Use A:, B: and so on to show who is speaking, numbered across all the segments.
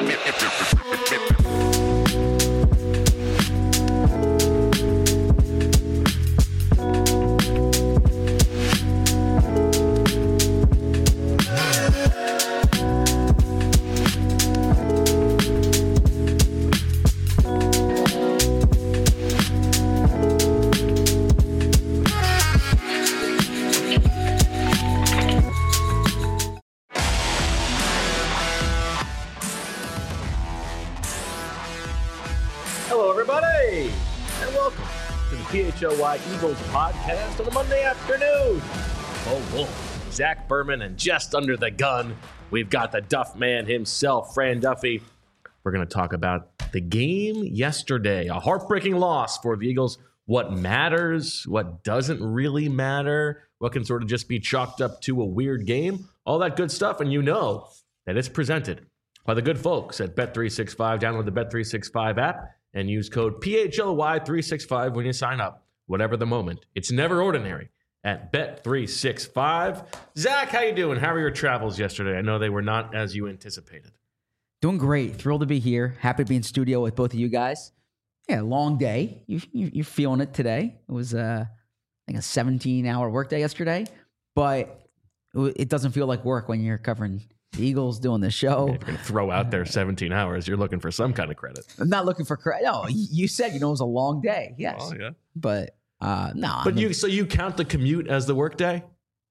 A: Hello, everybody, and welcome to the PHLY Eagles podcast on a Monday afternoon. Oh, Zach Berman, and just under the gun, we've got the Duff man himself, Fran Duffy. We're going to talk about the game yesterday, a heartbreaking loss for the Eagles. What matters, what doesn't really matter, what can sort of just be chalked up to a weird game, all that good stuff, and you know that it's presented by the good folks at Bet365. Download the Bet365 app and use code PHLY365 when you sign up. Whatever the moment, it's never ordinary at Bet365. Zach, how you doing? How were your travels yesterday? I know they were not as you anticipated.
B: Doing great. Thrilled to be here. Happy to be in studio with both of you guys. Yeah, long day. You're feeling it today. It was I think a 17-hour workday yesterday, but it doesn't feel like work when you're covering the Eagles, doing the show.
A: If you're going to throw out there 17 hours, you're looking for some kind of credit.
B: I'm not looking for credit. No, you said, it was a long day. Yes.
A: Oh, yeah.
B: But no.
A: But you count the commute as the work day?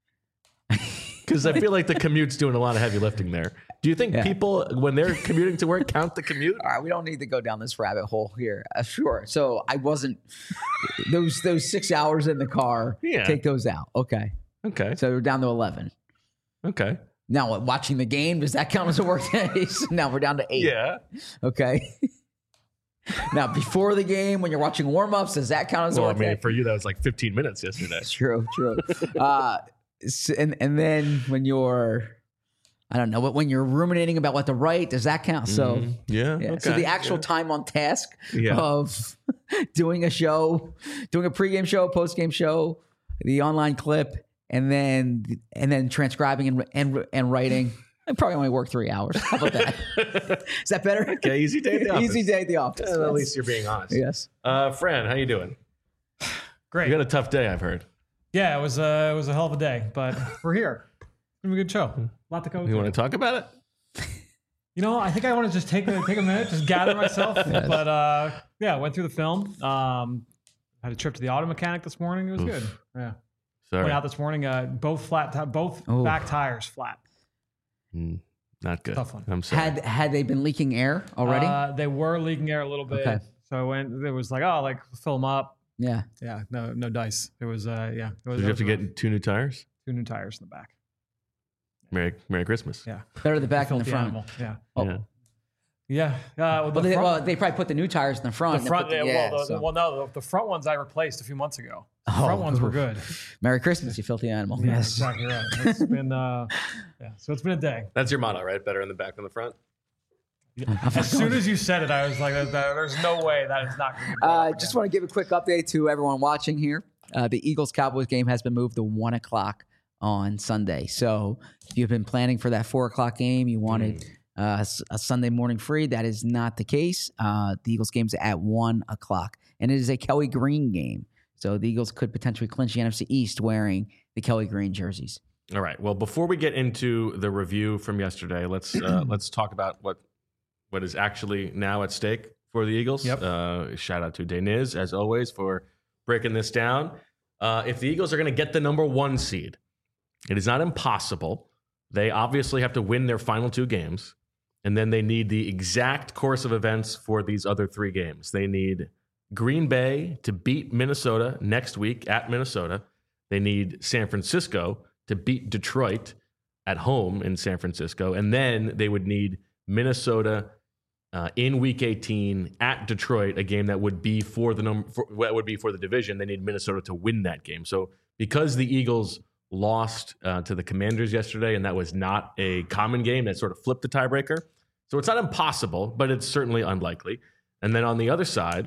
A: Because I feel like the commute's doing a lot of heavy lifting there. Do you think people, when they're commuting to work, count the commute?
B: All right, we don't need to go down this rabbit hole here. Sure. So I wasn't, those 6 hours in the car, take those out. Okay. So we're down to 11.
A: Okay.
B: Now, watching the game, does that count as a work day? So now we're down to 8.
A: Yeah.
B: Okay. Now, before the game, when you're watching warm-ups, does that count as a work day?
A: For you, that was like 15 minutes yesterday.
B: True. And then when you're, I don't know, but when you're ruminating about what to write, does that count? So,
A: Okay.
B: So the actual time on task of doing a show, doing a pregame show, postgame show, the online clip, and then transcribing and writing. I probably only work 3 hours. How about that? Is that better?
A: Okay, easy day at the office.
B: Easy day at the office.
A: At least you're being honest.
B: Yes.
A: Fran, how you doing?
C: Great.
A: You got a tough day, I've heard.
C: Yeah, it was a hell of a day, but we're here. It's gonna be a good show. A lot to go.
A: You want to talk about it?
C: I think I want to just take a minute, just gather myself. Yes. But went through the film. Had a trip to the auto mechanic this morning. It was good. Yeah.
A: Sorry.
C: Went out this morning. Both back tires flat.
A: Not good.
C: Tough one.
A: I'm sorry.
B: Had they been leaking air already?
C: They were leaking air a little bit.
B: Okay.
C: So it was like, fill them up.
B: Yeah.
C: Yeah. No dice. It was
A: Did you have to get 2 new tires?
C: 2 new tires in the back.
A: Merry Christmas.
C: Yeah.
B: Better the back than the front.
C: Animal. Yeah.
A: Yeah.
C: Yeah.
B: They probably put the new tires in the front.
C: The front, the front ones I replaced a few months ago. The front ones were good.
B: Merry Christmas, you filthy animal.
C: Yeah, yes, exactly right. It's been, so it's been a day.
A: That's your motto, right? Better in the back than the front.
C: As soon as you said it, I was like, "There's no way that is not going to be."
B: Just want to give a quick update to everyone watching here. The Eagles-Cowboys game has been moved to 1 o'clock on Sunday. So if you've been planning for that 4 o'clock game, you wanted a Sunday morning free. That is not the case. The Eagles game's at 1 o'clock, and it is a Kelly Green game. So the Eagles could potentially clinch the NFC East wearing the Kelly Green jerseys.
A: All right. Well, before we get into the review from yesterday, let's talk about what is actually now at stake for the Eagles.
C: Yep.
A: Shout out to Deniz, as always, for breaking this down. If the Eagles are going to get the number 1 seed, it is not impossible. They obviously have to win their final 2 games, and then they need the exact course of events for these other 3 games. They need Green Bay to beat Minnesota next week at Minnesota. They need San Francisco to beat Detroit at home in San Francisco. And then they would need Minnesota in Week 18 at Detroit, a game that would be for the division. They need Minnesota to win that game. So because the Eagles lost to the Commanders yesterday, and that was not a common game, that sort of flipped the tiebreaker. So it's not impossible, but it's certainly unlikely. And then on the other side,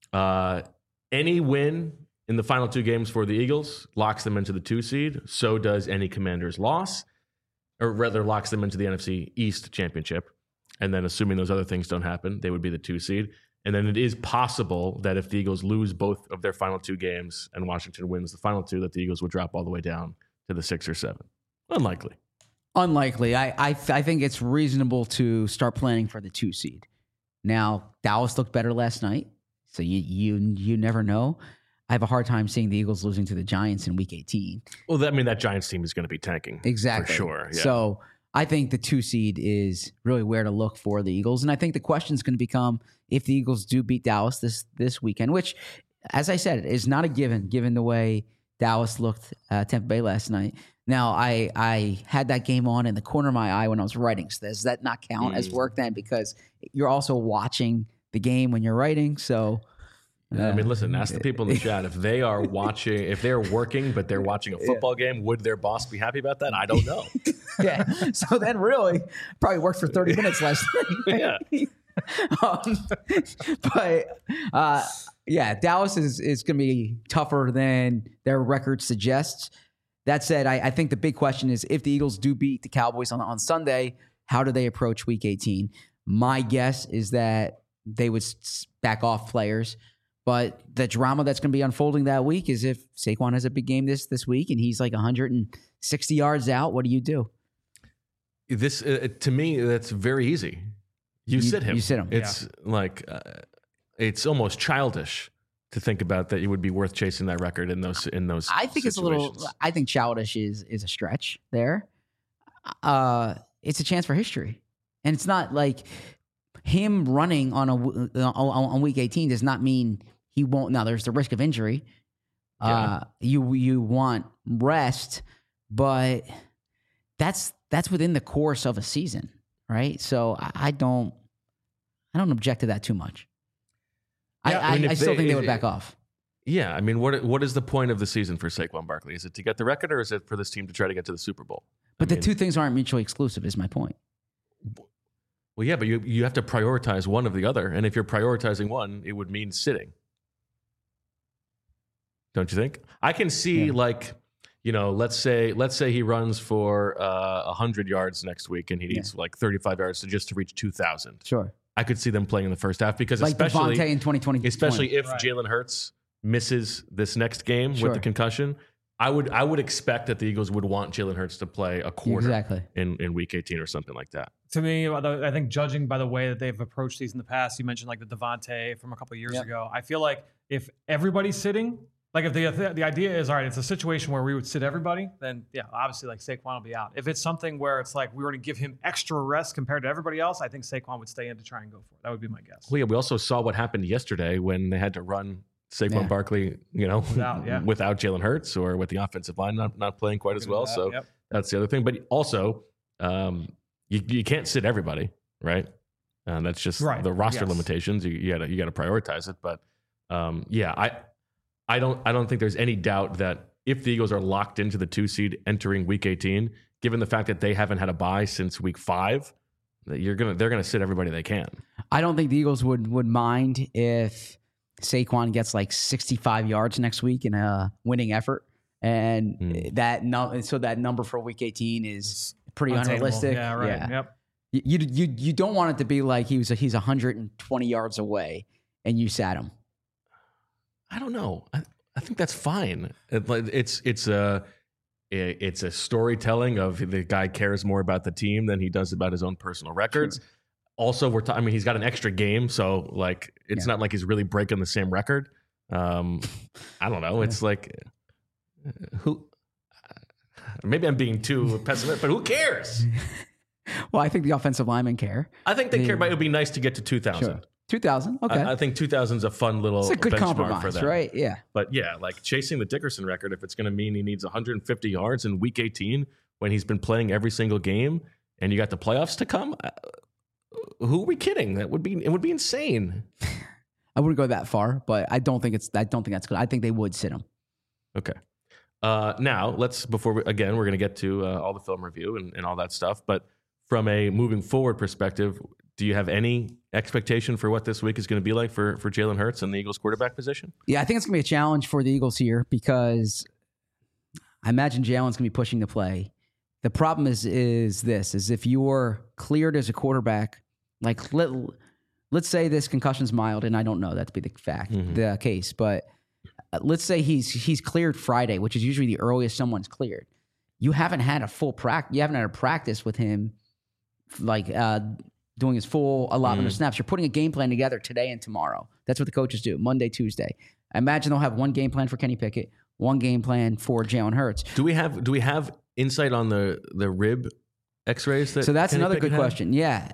A: any win in the final 2 games for the Eagles locks them into the 2 seed. So does any Commanders loss, or rather locks them into the NFC East championship. And then assuming those other things don't happen, they would be the 2 seed. And then it is possible that if the Eagles lose both of their final 2 games and Washington wins the final 2, that the Eagles would drop all the way down to the 6 or 7. Unlikely.
B: Unlikely. I think it's reasonable to start planning for the 2 seed. Now, Dallas looked better last night, so you never know. I have a hard time seeing the Eagles losing to the Giants in Week 18.
A: Well, that Giants team is going to be tanking.
B: Exactly.
A: For sure. Yeah.
B: So I think the 2 seed is really where to look for the Eagles. And I think the question is going to become if the Eagles do beat Dallas this weekend, which, as I said, is not a given the way Dallas looked Tampa Bay last night. Now, I had that game on in the corner of my eye when I was writing. So does that not count as work then? Because you're also watching the game when you're writing. So,
A: I mean, listen, ask the people in the chat if they are watching, if they're working, but they're watching a football game, would their boss be happy about that? I don't know.
B: Yeah. So then really probably worked for 30 minutes last night.
A: Yeah.
B: Yeah, Dallas is going to be tougher than their record suggests. That said, I think the big question is if the Eagles do beat the Cowboys on Sunday, how do they approach Week 18? My guess is that they would back off players. But the drama that's going to be unfolding that week is if Saquon has a big game this week and he's like 160 yards out, what do you do?
A: This to me, that's very easy. You sit him.
B: You sit him.
A: It's like it's almost childish to think about that. You would be worth chasing that record in those.
B: I think it's a little. I think childish is a stretch there. It's a chance for history, and it's not like him running on Week 18 does not mean he won't. Now there's the risk of injury.
A: Yeah.
B: You want rest, but that's within the course of a season, right? So I don't object to that too much.
A: Yeah,
B: I still think they would back off.
A: Yeah, I mean, what is the point of the season for Saquon Barkley? Is it to get the record, or is it for this team to try to get to the Super Bowl?
B: But the two things aren't mutually exclusive, is my point.
A: Well, yeah, but you have to prioritize one of the other, and if you're prioritizing one, it would mean sitting. Don't you think? I can see let's say he runs for 100 yards next week, and he needs like 35 yards to reach 2,000.
B: Sure.
A: I could see them playing in the first half because
B: like
A: especially
B: Devontae in 2020,
A: especially if Jalen Hurts misses this next game with the concussion, I would expect that the Eagles would want Jalen Hurts to play a quarter in Week 18 or something like that.
C: To me, I think judging by the way that they've approached these in the past, you mentioned like the Devontae from a couple of years ago. I feel like if everybody's sitting, like if the idea is, all right, it's a situation where we would sit everybody, then yeah, obviously like Saquon will be out. If it's something where it's like we were to give him extra rest compared to everybody else, I think Saquon would stay in to try and go for it. That would be my guess.
A: Well, yeah, we also saw what happened yesterday when they had to run Saquon Barkley, without Jalen Hurts or with the offensive line not playing quite as well. So that's the other thing. But also, you can't sit everybody, right? That's just the roster limitations. You got to prioritize it. But I don't think there's any doubt that if the Eagles are locked into the 2 seed entering Week 18, given the fact that they haven't had a bye since Week 5, that they're gonna sit everybody they can.
B: I don't think the Eagles would mind if Saquon gets like 65 yards next week in a winning effort, and that number for Week 18 is pretty unrealistic.
C: Yeah, right.
B: Yeah.
C: Yep.
B: You don't want it to be like he's 120 yards away and you sat him.
A: I don't know. I think that's fine. It's a storytelling of the guy cares more about the team than he does about his own personal records. Sure. Also, he's got an extra game, so like it's not like he's really breaking the same record. I don't know. It's like who? Maybe I'm being too pessimistic, but who cares?
B: Well, I think the offensive linemen care.
A: I think they care, but it would be nice to get to 2,000.
B: Sure. 2,000. Okay.
A: I think 2,000 is a fun little
B: it's a good
A: benchmark
B: compromise
A: for them.
B: Right? Yeah.
A: But yeah, like chasing the Dickerson record, if it's going to mean he needs 150 yards in Week 18 when he's been playing every single game and you got the playoffs to come, who are we kidding? It would be insane.
B: I wouldn't go that far, but I don't think that's good. I think they would sit him.
A: Okay. Now we're going to get to all the film review and all that stuff. But from a moving forward perspective, do you have any expectation for what this week is going to be like for Jalen Hurts and the Eagles quarterback position?
B: Yeah, I think it's going to be a challenge for the Eagles here because I imagine Jalen's going to be pushing the play. The problem is if you're cleared as a quarterback like let's say this concussion's mild, and I don't know that to be the case, but let's say he's cleared Friday, which is usually the earliest someone's cleared. You haven't had a full practice. You haven't had a practice with him, like doing his full allotment of snaps. You're putting a game plan together today and tomorrow. That's what the coaches do, Monday, Tuesday. I imagine they'll have one game plan for Kenny Pickett, one game plan for Jalen Hurts.
A: Do we have insight on the rib X-rays?
B: So that's
A: Kenny
B: another
A: Pickett
B: good
A: had?
B: question. Yeah,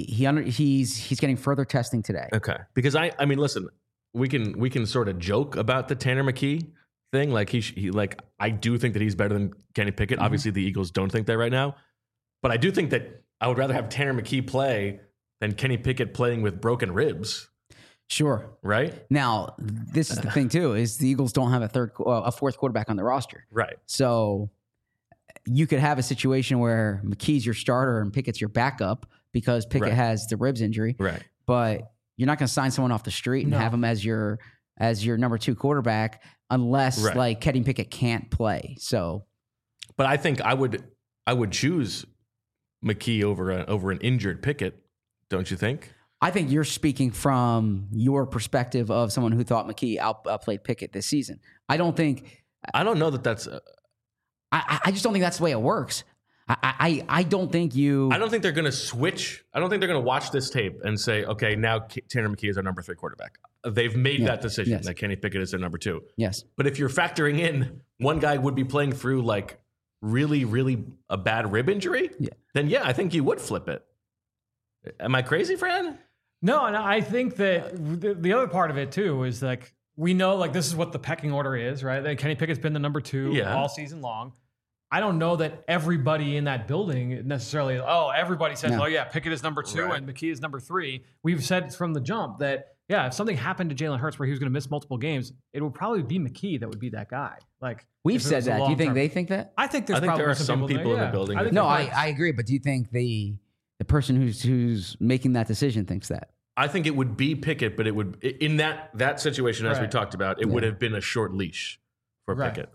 B: he's getting further testing today.
A: Okay, because I mean, listen, we can sort of joke about the Tanner McKee thing. Like he like I do think that he's better than Kenny Pickett. Obviously, the Eagles don't think that right now, but I do think that I would rather have Tanner McKee play than Kenny Pickett playing with broken ribs.
B: Sure.
A: Right.
B: Now, this is the thing too: is the Eagles don't have a fourth quarterback on the roster.
A: Right.
B: So you could have a situation where McKee's your starter and Pickett's your backup because Pickett has the ribs injury.
A: Right.
B: But you're not going to sign someone off the street and have him as your number 2 quarterback unless like Kenny Pickett can't play. So,
A: but I think I would choose McKee over an injured Pickett. Don't you think?
B: I think you're speaking from your perspective of someone who thought McKee outplayed Pickett this season. I don't know that that's.
A: I
B: just don't think that's the way it works. I don't think you.
A: I don't think they're going to switch. I don't think they're going to watch this tape and say, okay, now Tanner McKee is our number 3 quarterback. They've made that decision that Kenny Pickett is their number 2.
B: Yes.
A: But if you're factoring in one guy would be playing through like really, really a bad rib injury, then I think you would flip it. Am I crazy, Fran?
C: No, and I think that the other part of it too is like we know like this is what the pecking order is, right? That Kenny Pickett's been the number 2 all season long. I don't know that everybody in that building necessarily, everybody says, Pickett is number 2 and McKee is number 3. We've said from the jump that, if something happened to Jalen Hurts where he was going to miss multiple games, it would probably be McKee that would be that guy. Like
B: we've said that. Do you think they think that?
C: I think
A: there are some people in the building.
B: I agree. But do you think the person who's making that decision thinks that?
A: I think it would be Pickett, but it would in that situation, as we talked about, it would have been a short leash for Pickett.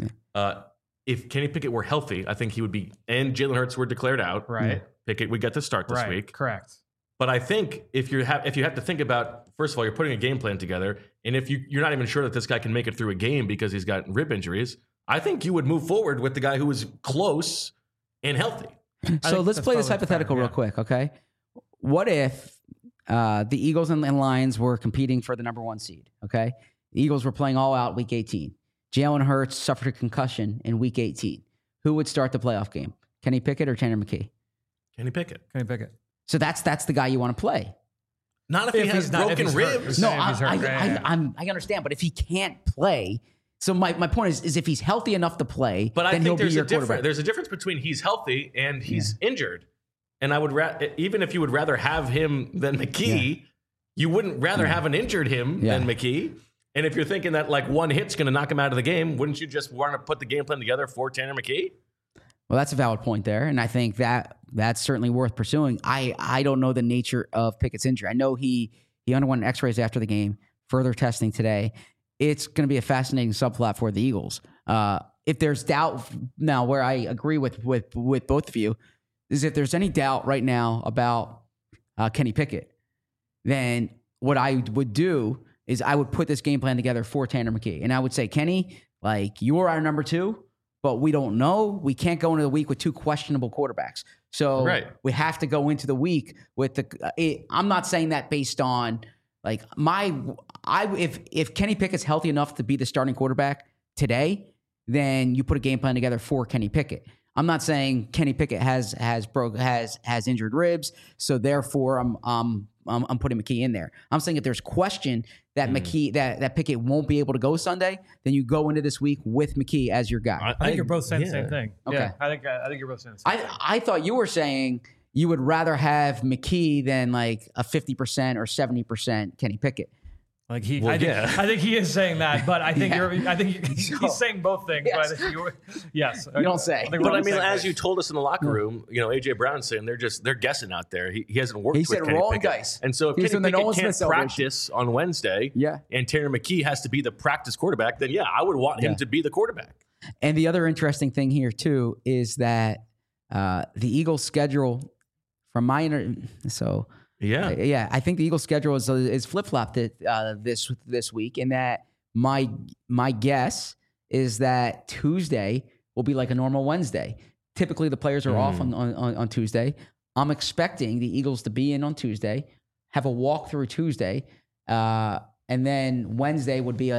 A: If Kenny Pickett were healthy, I think he would be, and Jalen Hurts were declared out.
C: Right.
A: Pickett would get to start this week.
C: Correct.
A: But I think if you have to think about, first of all, you're putting a game plan together, and if you're not even sure that this guy can make it through a game because he's got rib injuries, I think you would move forward with the guy who is close and healthy.
B: So let's play this hypothetical real quick, okay? What if the Eagles and Lions were competing for the number 1 seed, okay? The Eagles were playing all out week 18. Jalen Hurts suffered a concussion in week 18. Who would start the playoff game? Kenny Pickett or Tanner McKee?
A: Kenny Pickett.
B: So that's the guy you want to play.
A: Not if he has broken ribs.
B: No, I understand, but if he can't play, so my point is if he's healthy enough to play,
A: but I
B: then
A: think
B: he'll be your quarterback.
A: There's a difference between he's healthy and he's injured. And I would even if you would rather have him than McKee, you wouldn't rather have an injured him than McKee. And if you're thinking that like one hit's going to knock him out of the game, wouldn't you just want to put the game plan together for Tanner McKee?
B: Well, that's a valid point there, and I think that's certainly worth pursuing. I don't know the nature of Pickett's injury. I know he underwent X-rays after the game, further testing today. It's going to be a fascinating subplot for the Eagles. If there's doubt now, where I agree with both of you, is if there's any doubt right now about Kenny Pickett, then what I would do is I would put this game plan together for Tanner McKee. And I would say, Kenny, like, you're our number 2, but we don't know. We can't go into the week with 2 questionable quarterbacks. So we have to go into the week with I'm not saying that based on, like, if Kenny Pickett's healthy enough to be the starting quarterback today, then you put a game plan together for Kenny Pickett. I'm not saying Kenny Pickett has injured ribs, so therefore I'm putting McKee in there. I'm saying if there's question that McKee that Pickett won't be able to go Sunday, then you go into this week with McKee as your guy.
C: I think you're both saying the same thing.
B: Okay.
C: Yeah, I think you're both saying the same thing.
B: I thought you were saying you would rather have McKee than like a 50% or 70% Kenny Pickett.
C: Like I think he is saying that, but I think he's saying both things.
B: Yes.
C: But I think yes,
B: you don't say.
A: But I mean, as you told us in the locker room, AJ Brown's saying they're guessing out there. He hasn't worked. He
B: said
A: Kenny
B: rolling
A: Pickett.
B: dice,
A: and so if Kenny Pickett can't practice on Wednesday, and Tanner McKee has to be the practice quarterback, then I would want him to be the quarterback.
B: And the other interesting thing here too is that the Eagles' schedule, from my Yeah, I think the Eagles' schedule is flip-flopped this week, in that my guess is that Tuesday will be like a normal Wednesday. Typically, the players are off on Tuesday. I'm expecting the Eagles to be in on Tuesday, have a walkthrough Tuesday, and then Wednesday would be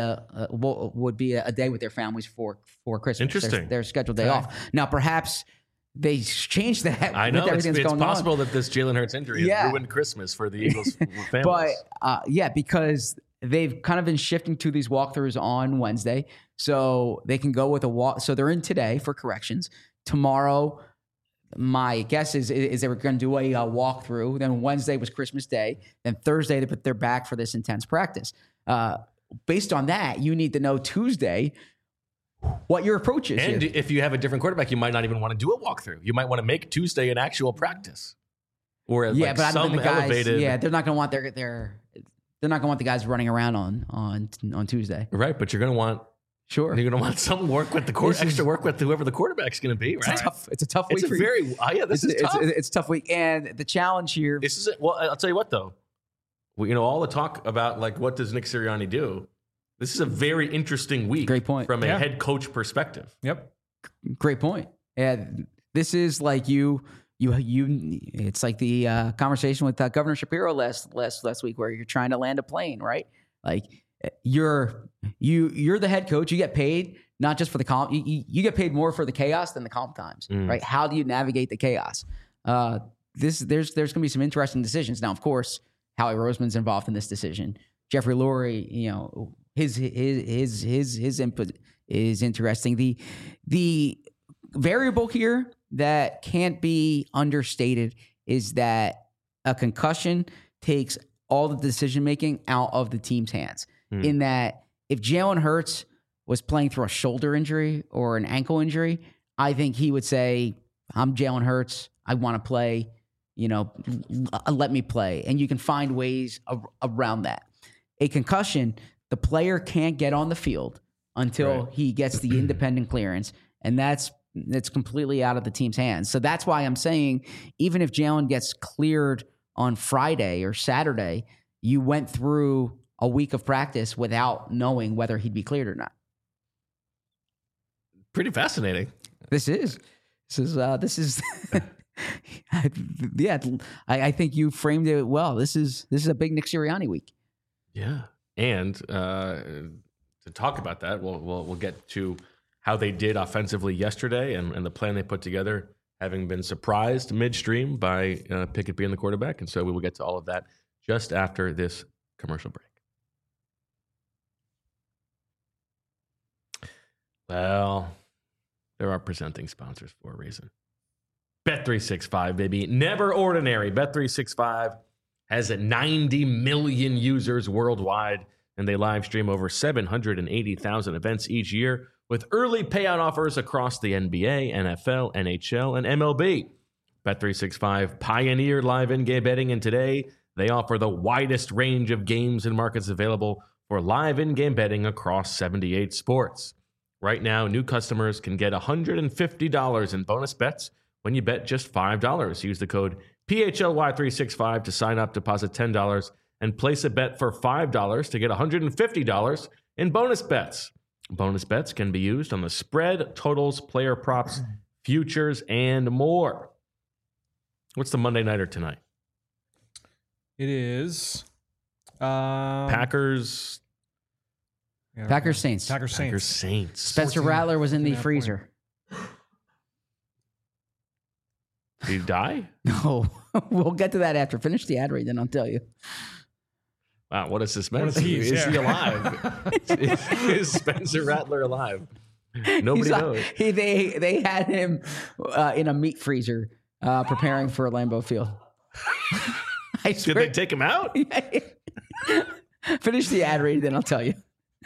B: a day with their families for Christmas.
A: Interesting.
B: Their scheduled day off. Now, perhaps they changed that.
A: I know
B: it's
A: possible that this Jalen Hurts injury has ruined Christmas for the Eagles families.
B: But because they've kind of been shifting to these walkthroughs on Wednesday, so they can go with a walk. So they're in today for corrections. Tomorrow, my guess is they were going to do a walkthrough. Then Wednesday was Christmas Day. Then Thursday, they're back for this intense practice. Based on that, you need to know Tuesday what your approach is.
A: And if you have a different quarterback, you might not even want to do a walkthrough. You might want to make Tuesday an actual practice. Or
B: but I don't think the guys,
A: elevated.
B: Yeah, they're not going to want they're not going to want the guys running around on Tuesday.
A: Right, but you're going to want you're going to want some work with extra work with whoever the quarterback's going to be. Right,
B: it's a tough week.
A: This is tough.
B: It's a tough week, and the challenge here.
A: This is well. I'll tell you what though. All the talk about like what does Nick Sirianni do? This is a very interesting week.
B: Great point.
A: From a head coach perspective.
C: Yep.
B: Great point. And this is like it's like the conversation with Governor Shapiro last week, where you're trying to land a plane, right? Like you're the head coach. You get paid not just for the calm. You get paid more for the chaos than the calm times, right? How do you navigate the chaos? There's going to be some interesting decisions. Now, of course, Howie Roseman's involved in this decision. Jeffrey Lurie, his input is interesting. The variable here that can't be understated is that a concussion takes all the decision making out of the team's hands. In that, if Jalen Hurts was playing through a shoulder injury or an ankle injury, I think he would say, "I'm Jalen Hurts. I want to play. Let me play." And you can find ways around that. A concussion, the player can't get on the field until he gets the independent clearance, and that's completely out of the team's hands. So that's why I'm saying, even if Jalen gets cleared on Friday or Saturday, you went through a week of practice without knowing whether he'd be cleared or not.
A: Pretty fascinating.
B: This is yeah. I think you framed it well. This is a big Nick Sirianni week.
A: Yeah, and to talk about that, we'll get to how they did offensively yesterday and the plan they put together, having been surprised midstream by Pickett being the quarterback. And so we will get to all of that just after this commercial break. Well, there are presenting sponsors for a reason. Bet365, baby. Never ordinary. Bet365 has 90 million users worldwide, and they live stream over 780,000 events each year with early payout offers across the NBA, NFL, NHL, and MLB. Bet365 pioneered live in-game betting, and today they offer the widest range of games and markets available for live in-game betting across 78 sports. Right now, new customers can get $150 in bonus bets when you bet just $5. Use the code PHLY365 to sign up, deposit $10, and place a bet for $5 to get $150 in bonus bets. Bonus bets can be used on the spread, totals, player props, futures, and more. What's the Monday Nighter tonight?
C: It is
A: Packers.
B: Packers Saints.
C: Packers
A: Saints.
B: Spencer Rattler was in the freezer.
A: Did he die?
B: No. We'll get to that after. Finish the ad read, then I'll tell you.
A: Wow, what a suspense.
C: Is
A: he alive? Is Spencer Rattler alive? Nobody knows.
B: They had him in a meat freezer preparing for Lambeau Field. I swear.
A: Did they take him out?
B: Finish the ad read, then I'll tell you.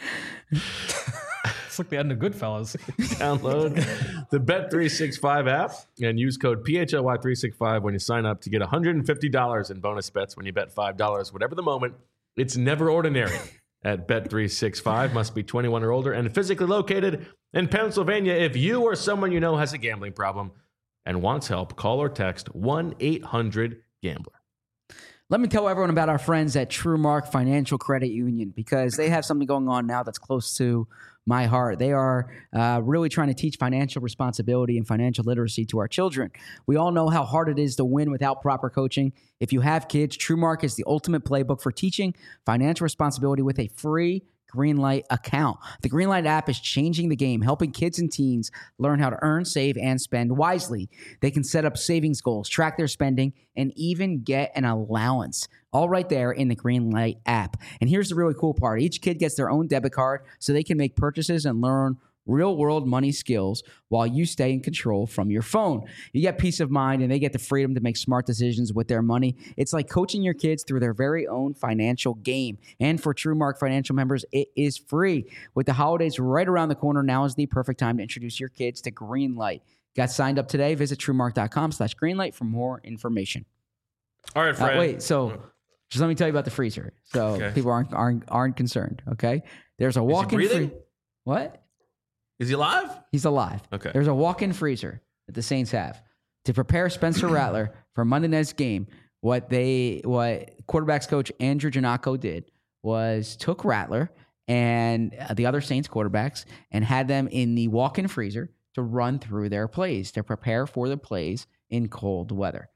C: It's like the end of Goodfellas.
A: Download the Bet365 app and use code PHLY365 when you sign up to get $150 in bonus bets when you bet $5. Whatever the moment, it's never ordinary at Bet365. Must be 21 or older and physically located in Pennsylvania. If you or someone you know has a gambling problem and wants help, call or text 1-800-GAMBLER.
B: Let me tell everyone about our friends at TrueMark Financial Credit Union because they have something going on now that's close to my heart. They are really trying to teach financial responsibility and financial literacy to our children. We all know how hard it is to win without proper coaching. If you have kids, TrueMark is the ultimate playbook for teaching financial responsibility with a free Greenlight account. The Greenlight app is changing the game, helping kids and teens learn how to earn, save, and spend wisely. They can set up savings goals, track their spending, and even get an allowance, all right there in the Greenlight app. And here's the really cool part. Each kid gets their own debit card so they can make purchases and learn real-world money skills while you stay in control from your phone. You get peace of mind, and they get the freedom to make smart decisions with their money. It's like coaching your kids through their very own financial game. And for TrueMark Financial members, it is free. With the holidays right around the corner, now is the perfect time to introduce your kids to Greenlight. Got signed up today? Visit TrueMark.com/Greenlight for more information.
A: All right, Fred.
B: Wait, so just let me tell you about the freezer, so people aren't concerned. Okay, there's a walk-in freezer. What?
A: Is he alive?
B: He's alive.
A: Okay.
B: There's a walk-in freezer that the Saints have to prepare Spencer Rattler for Monday night's game. What quarterbacks coach Andrew Janocko did was took Rattler and the other Saints quarterbacks and had them in the walk-in freezer to run through their plays, to prepare for the plays in cold weather.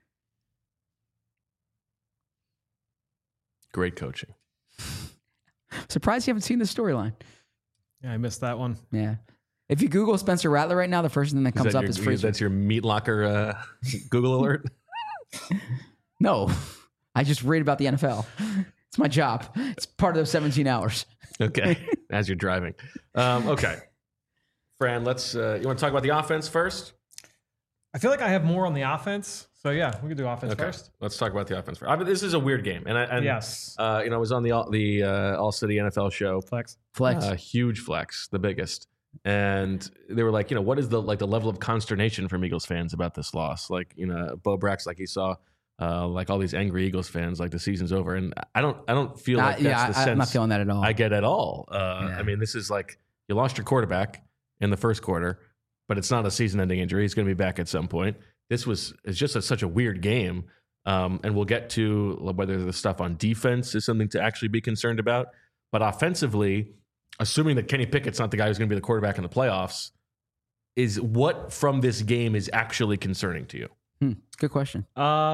A: Great coaching.
B: Surprised you haven't seen the storyline.
C: Yeah, I missed that one.
B: Yeah. If you Google Spencer Rattler right now, the first thing that comes up is freezer.
A: That's your meat locker Google alert?
B: No. I just read about the NFL. It's my job. It's part of those 17 hours.
A: Okay. As you're driving. Okay. Fran, you want to talk about the offense first?
C: I feel like I have more on the offense. So, yeah, we can do offense first.
A: Let's talk about the offense first. I mean, this is a weird game. And
C: yes.
A: I was on the All-City NFL show.
C: Flex.
A: Huge flex, the biggest. And they were like, what is the level of consternation from Eagles fans about this loss? Like, Bo Brack's like he saw like all these angry Eagles fans like the season's over. And I don't feel like that's the sense
B: I'm not feeling that at all.
A: I get at all. I mean, this is like you lost your quarterback in the first quarter, but it's not a season-ending injury. He's going to be back at some point. It's just such a weird game. And we'll get to whether the stuff on defense is something to actually be concerned about. But offensively, assuming that Kenny Pickett's not the guy who's going to be the quarterback in the playoffs, is what from this game is actually concerning to you?
B: Good question.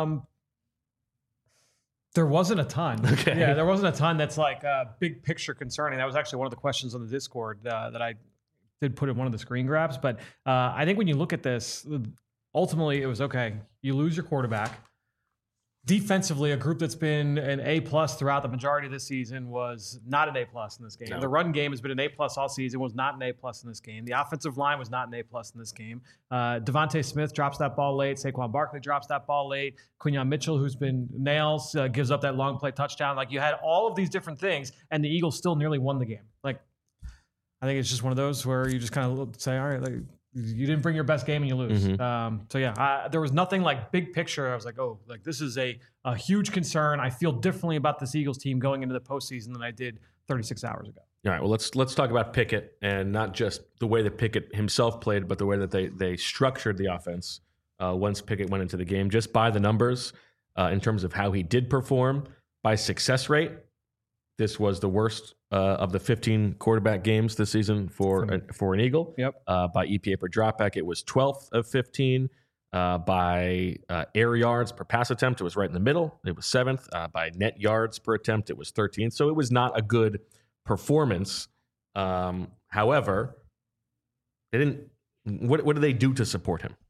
C: There wasn't a ton.
A: Okay.
C: Yeah, there wasn't a ton that's like big picture concerning. That was actually one of the questions on the Discord that I did put in one of the screen grabs. But I think when you look at this, ultimately it was okay. You lose your quarterback. Defensively, a group that's been an A+ throughout the majority of this season was not an A+ in this game. No. The run game has been an A+ all season, was not an A+ in this game. The offensive line was not an A+ in this game. Devontae Smith drops that ball late. Saquon Barkley drops that ball late. Quinyon Mitchell, who's been nails, gives up that long play touchdown. Like, you had all of these different things, and the Eagles still nearly won the game. Like, I think it's just one of those where you just kind of say, all right, like, you didn't bring your best game and you lose.
A: Mm-hmm.
C: There was nothing like big picture. I was like, oh, like this is a huge concern. I feel differently about this Eagles team going into the postseason than I did 36 hours ago.
A: All right, well, let's talk about Pickett, and not just the way that Pickett himself played, but the way that they structured the offense once Pickett went into the game. Just by the numbers, in terms of how he did perform, by success rate, this was the worst of the 15 quarterback games this season for an Eagle.
C: Yep.
A: By EPA per dropback, it was 12th of 15. By air yards per pass attempt, it was right in the middle. It was 7th. By net yards per attempt, it was 13th. So it was not a good performance. However, they didn't. What did they do to support him?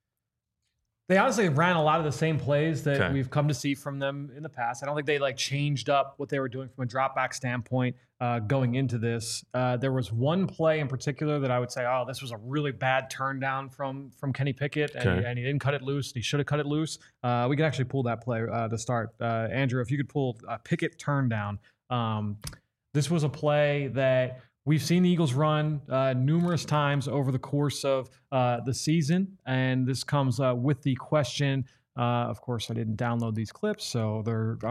C: They honestly ran a lot of the same plays that we've come to see from them in the past. I don't think they changed up what they were doing from a drop back standpoint going into this. There was one play in particular that I would say, oh, this was a really bad turn down from Kenny Pickett, and he didn't cut it loose. He should have cut it loose. We could actually pull that play to start. Andrew, if you could pull Pickett turn down. This was a play that we've seen the Eagles run numerous times over the course of the season, and this comes with the question. Of course, I didn't download these clips, so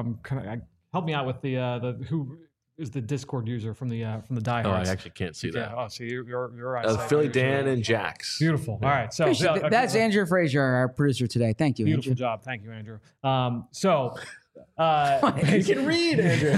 C: help me out with the who is the Discord user from the diehards.
A: Oh, I actually can't see that.
C: Oh, so you're right.
A: Philly Dan and Jax.
C: Beautiful. Yeah. All right, so
B: that's Andrew Frazier, our producer today. Thank you.
C: Beautiful
B: Andrew.
C: job. Thank you, Andrew. So
A: You can read, Andrew.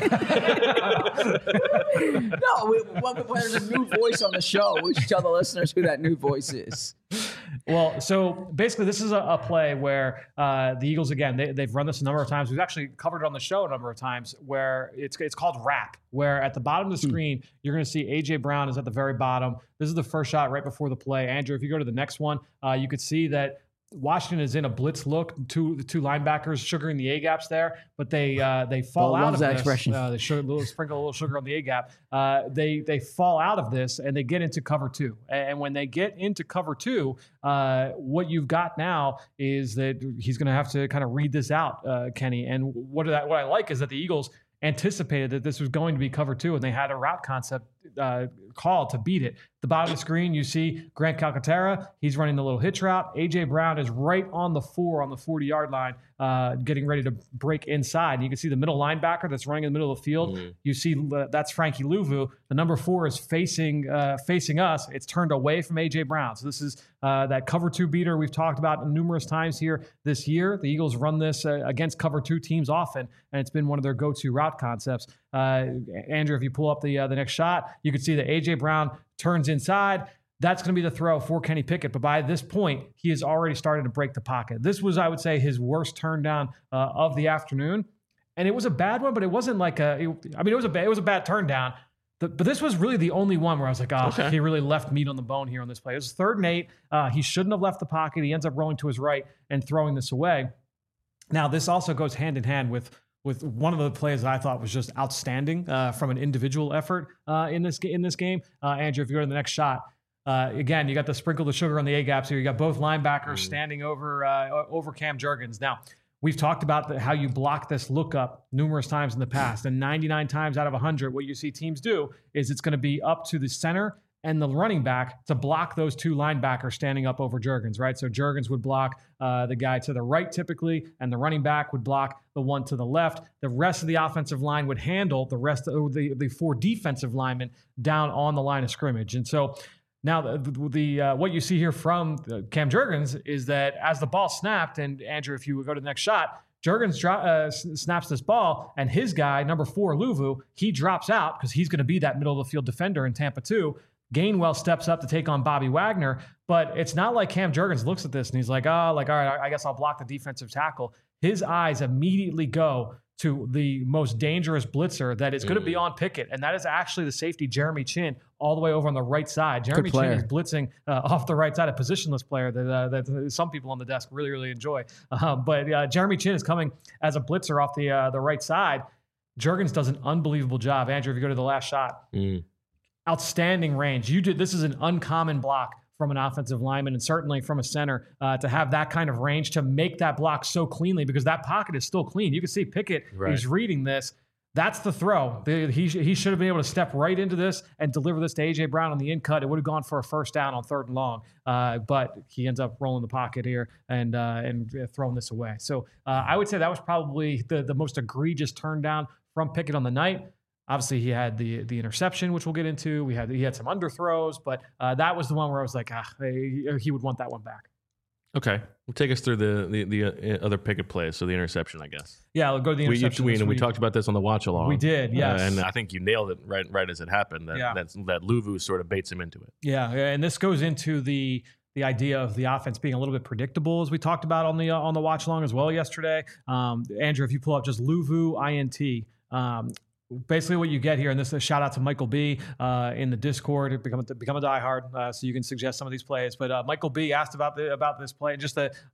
B: No, when there's a new voice on the show, we should tell the listeners who that new voice is.
C: Well, so basically, this is a play where the Eagles, again, they've run this a number of times. We've actually covered it on the show a number of times, where it's called wrap, where at the bottom of the screen, you're going to see A.J. Brown is at the very bottom. This is the first shot right before the play. Andrew, if you go to the next one, you could see that Washington is in a blitz look. The two linebackers sugaring the A gaps there, but they fall out of
B: that
C: this.
B: Expression.
C: They sprinkle a little sugar on the A gap. They fall out of this and they get into cover two. And when they get into cover two, what you've got now is that he's going to have to kind of read this out, Kenny. And what I like is that the Eagles anticipated that this was going to be cover two, and they had a route concept call to beat it. The bottom of the screen, you see Grant Calcaterra. He's running the little hitch route. A.J. Brown is right on the 40-yard line, getting ready to break inside. And you can see the middle linebacker that's running in the middle of the field. Mm-hmm. You see that's Frankie Luvu. The number 4 is facing us. It's turned away from A.J. Brown. So this is that cover 2 beater we've talked about numerous times here this year. The Eagles run this against cover 2 teams often, and it's been one of their go-to route concepts. Andrew, if you pull up the next shot, you can see that A.J. Brown turns inside. That's going to be the throw for Kenny Pickett. But by this point, he has already started to break the pocket. This was, I would say, his worst turn down of the afternoon. And it was a bad one, but it wasn't like it was a bad turn down. But this was really the only one where I was like, okay. He really left meat on the bone here on this play. It was 3rd and 8. He shouldn't have left the pocket. He ends up rolling to his right and throwing this away. Now, this also goes hand in hand with one of the plays that I thought was just outstanding from an individual effort in this game. Andrew, if you go to the next shot, again, you got the sprinkle the sugar on the A-gaps here. You got both linebackers standing over Cam Jurgens. Now, we've talked about how you block this look up numerous times in the past, and 99 times out of 100, what you see teams do is it's going to be up to the center and the running back to block those 2 linebackers standing up over Jurgens, right? So Jurgens would block the guy to the right typically, and the running back would block the one to the left. The rest of the offensive line would handle the rest of the 4 defensive linemen down on the line of scrimmage. And so now the what you see here from Cam Jurgens is that as the ball snapped, and Andrew, if you would go to the next shot, Jurgens snaps this ball, and his guy, number 4, Luvu, he drops out because he's going to be that middle of the field defender in Tampa 2. Gainwell steps up to take on Bobby Wagner, but it's not like Cam Jurgens looks at this and he's like, all right, I guess I'll block the defensive tackle. His eyes immediately go to the most dangerous blitzer that is going to be on Pickett, and that is actually the safety, Jeremy Chinn, all the way over on the right side. Jeremy Chinn is blitzing off the right side, a positionless player that some people on the desk really, really enjoy. But Jeremy Chinn is coming as a blitzer off the right side. Jurgens does an unbelievable job. Andrew, if you go to the last shot, outstanding range. This is an uncommon block from an offensive lineman and certainly from a center to have that kind of range to make that block so cleanly, because that pocket is still clean. You can see Pickett is reading this. That's the throw. He should have been able to step right into this and deliver this to A.J. Brown on the in cut. It would have gone for a first down on 3rd and long, but he ends up rolling the pocket here and throwing this away. So I would say that was probably the most egregious turn down from Pickett on the night. Obviously, he had the interception, which we'll get into. He had some underthrows, but that was the one where I was like, he would want that one back.
A: Okay, we'll take us through the other Pickett plays. So the interception, I guess.
C: Yeah, we'll go to the interception.
A: We talked about this on the watch along.
C: We did, yes.
A: And I think you nailed it right as it happened. That Luvu sort of baits him into it.
C: Yeah, and this goes into the idea of the offense being a little bit predictable, as we talked about on the watch along as well yesterday. Andrew, if you pull up just Luvu INT. Basically what you get here, and this is a shout out to Michael B in the Discord, become a diehard, so you can suggest some of these plays. But Michael B asked about this play, just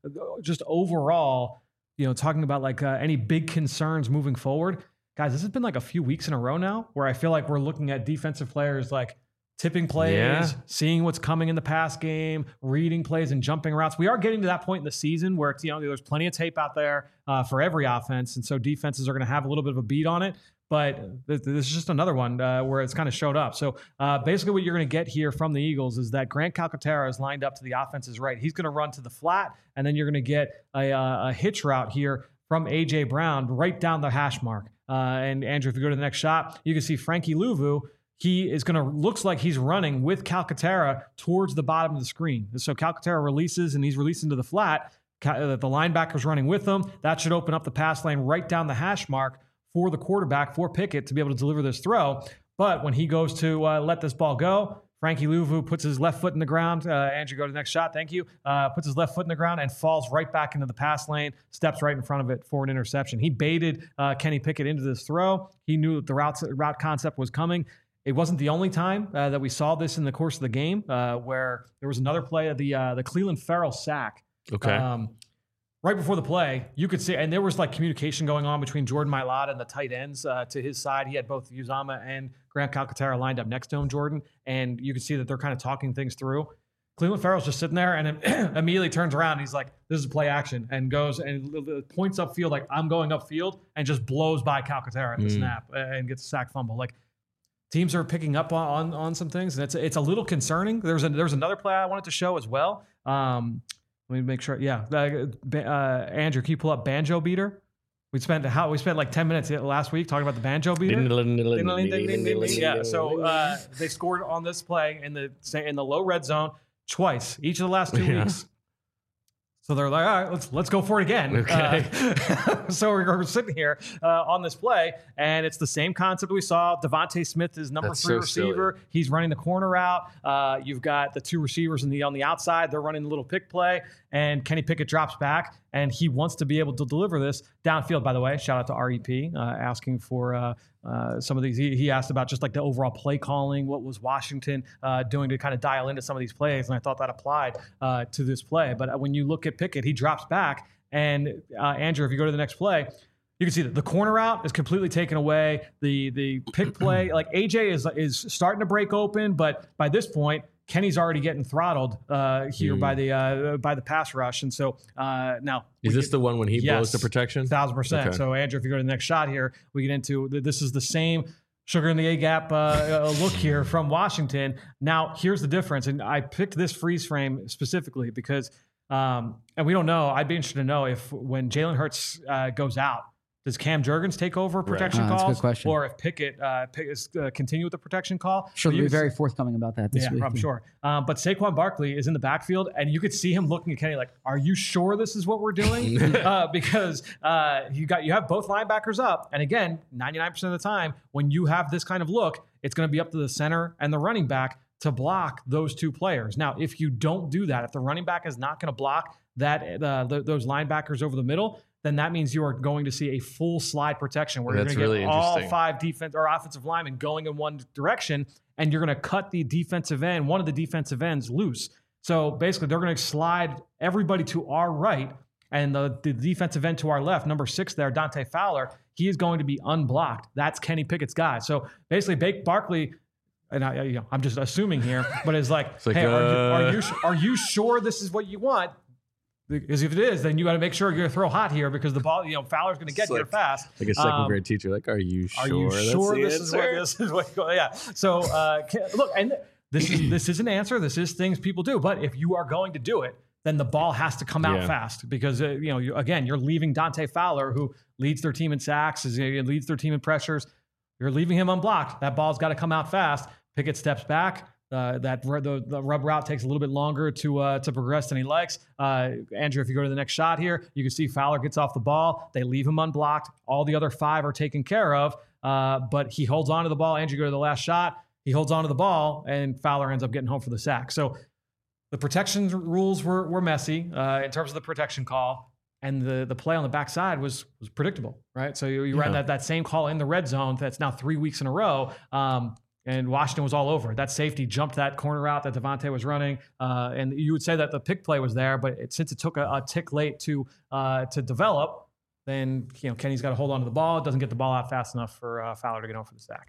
C: overall, talking about like any big concerns moving forward. Guys, this has been like a few weeks in a row now where I feel like we're looking at defensive players like tipping plays, seeing what's coming in the pass game, reading plays and jumping routes. We are getting to that point in the season where there's plenty of tape out there for every offense, and so defenses are going to have a little bit of a beat on it. But this is just another one where it's kind of showed up. So basically what you're going to get here from the Eagles is that Grant Calcaterra is lined up to the offense's right. He's going to run to the flat, and then you're going to get a hitch route here from A.J. Brown right down the hash mark. And Andrew, if you go to the next shot, you can see Frankie Luvu. He is looks like he's running with Calcaterra towards the bottom of the screen. So Calcaterra releases, and he's releasing to the flat. The linebacker's running with them. That should open up the pass lane right down the hash mark for the quarterback, for Pickett, to be able to deliver this throw. But when he goes to let this ball go, Frankie Louvu puts his left foot in the ground. Andrew, go to the next shot. Thank you. Puts his left foot in the ground and falls right back into the pass lane, steps right in front of it for an interception. He baited Kenny Pickett into this throw. He knew that the route concept was coming. It wasn't the only time that we saw this in the course of the game, where there was another play of the Clelin Ferrell sack.
A: Okay.
C: Right before the play, you could see, and there was like communication going on between Jordan Mailata and the tight ends to his side. He had both Uzomah and Grant Calcaterra lined up next to him, Jordan, and you could see that they're kind of talking things through. Clelin Ferrell's just sitting there and immediately turns around. And he's like, this is play action, and goes and points upfield like, I'm going upfield, and just blows by Calcaterra at the snap and gets a sack fumble. Like, teams are picking up on some things, and it's a little concerning. There's another play I wanted to show as well. Let me make sure. Yeah, Andrew, can you pull up Banjo Beater? We spent like 10 minutes last week talking about the Banjo Beater. Yeah, so they scored on this play in the low red zone twice each of the last 2 weeks. So they're like, all right, let's go for it again.
A: Okay.
C: So we're sitting here on this play, and it's the same concept we saw. Devontae Smith is number 3 receiver.
A: Silly.
C: He's running the corner out. You've got the 2 receivers on the outside. They're running the little pick play, and Kenny Pickett drops back, and he wants to be able to deliver this downfield. By the way, shout out to REP asking for some of these. He asked about just like the overall play calling. What was Washington doing to kind of dial into some of these plays? And I thought that applied to this play. But when you look at Pickett, he drops back. And Andrew, if you go to the next play, you can see that the corner out is completely taken away. The pick play, like AJ is starting to break open, but by this point, Kenny's already getting throttled here by the pass rush. And so now,
A: is this the one when he blows the protection?
C: 1,000%.
A: Okay.
C: So Andrew, if you go to the next shot here, we get into this is the same sugar in the A gap look here from Washington. Now, here's the difference, and I picked this freeze frame specifically because, and we don't know. I'd be interested to know if when Jalen Hurts goes out, does Cam Jurgens take over protection calls?
B: That's a good question.
C: Or if Pickett continue with the protection call?
B: Sure, we'll be very forthcoming about that this week.
C: I'm sure. But Saquon Barkley is in the backfield, and you could see him looking at Kenny like, are you sure this is what we're doing? Because you have both linebackers up. And again, 99% of the time, when you have this kind of look, it's going to be up to the center and the running back to block those 2 players. Now, if you don't do that, if the running back is not going to block those linebackers over the middle, then that means you are going to see a full slide protection where you're going to get all 5 defense or offensive linemen going in one direction, and you're going to cut the defensive end, one of the defensive ends, loose. So basically, they're going to slide everybody to our right, and the defensive end to our left, number 6 there, Dante Fowler, he is going to be unblocked. That's Kenny Pickett's guy. So basically, Barkley, and I'm just assuming here, but it's like hey, are you sure this is what you want? Because if it is, then you got to make sure you're going to throw hot here because the ball, Fowler's going to get here fast.
A: Like a second grade teacher, like, are you sure?
C: Are you sure this is what? Yeah. So look, and this is an answer. This is things people do. But if you are going to do it, then the ball has to come out fast because you're leaving Dante Fowler, who leads their team in sacks, leads their team in pressures. You're leaving him unblocked. That ball's got to come out fast. Pickett steps back. The rub route takes a little bit longer to progress than he likes. Andrew, if you go to the next shot here, you can see Fowler gets off the ball. They leave him unblocked. All the other 5 are taken care of, but he holds on to the ball. Andrew, go to the last shot. He holds on to the ball, and Fowler ends up getting home for the sack. So the protection rules were messy in terms of the protection call, and the play on the backside was predictable, right? So you ran that same call in the red zone that's now 3 weeks in a row. And Washington was all over. That safety jumped that corner out that Devontae was running. And you would say that the pick play was there, but since it took a tick late to develop, then Kenny's got to hold on to the ball. It doesn't get the ball out fast enough for Fowler to get home for the sack.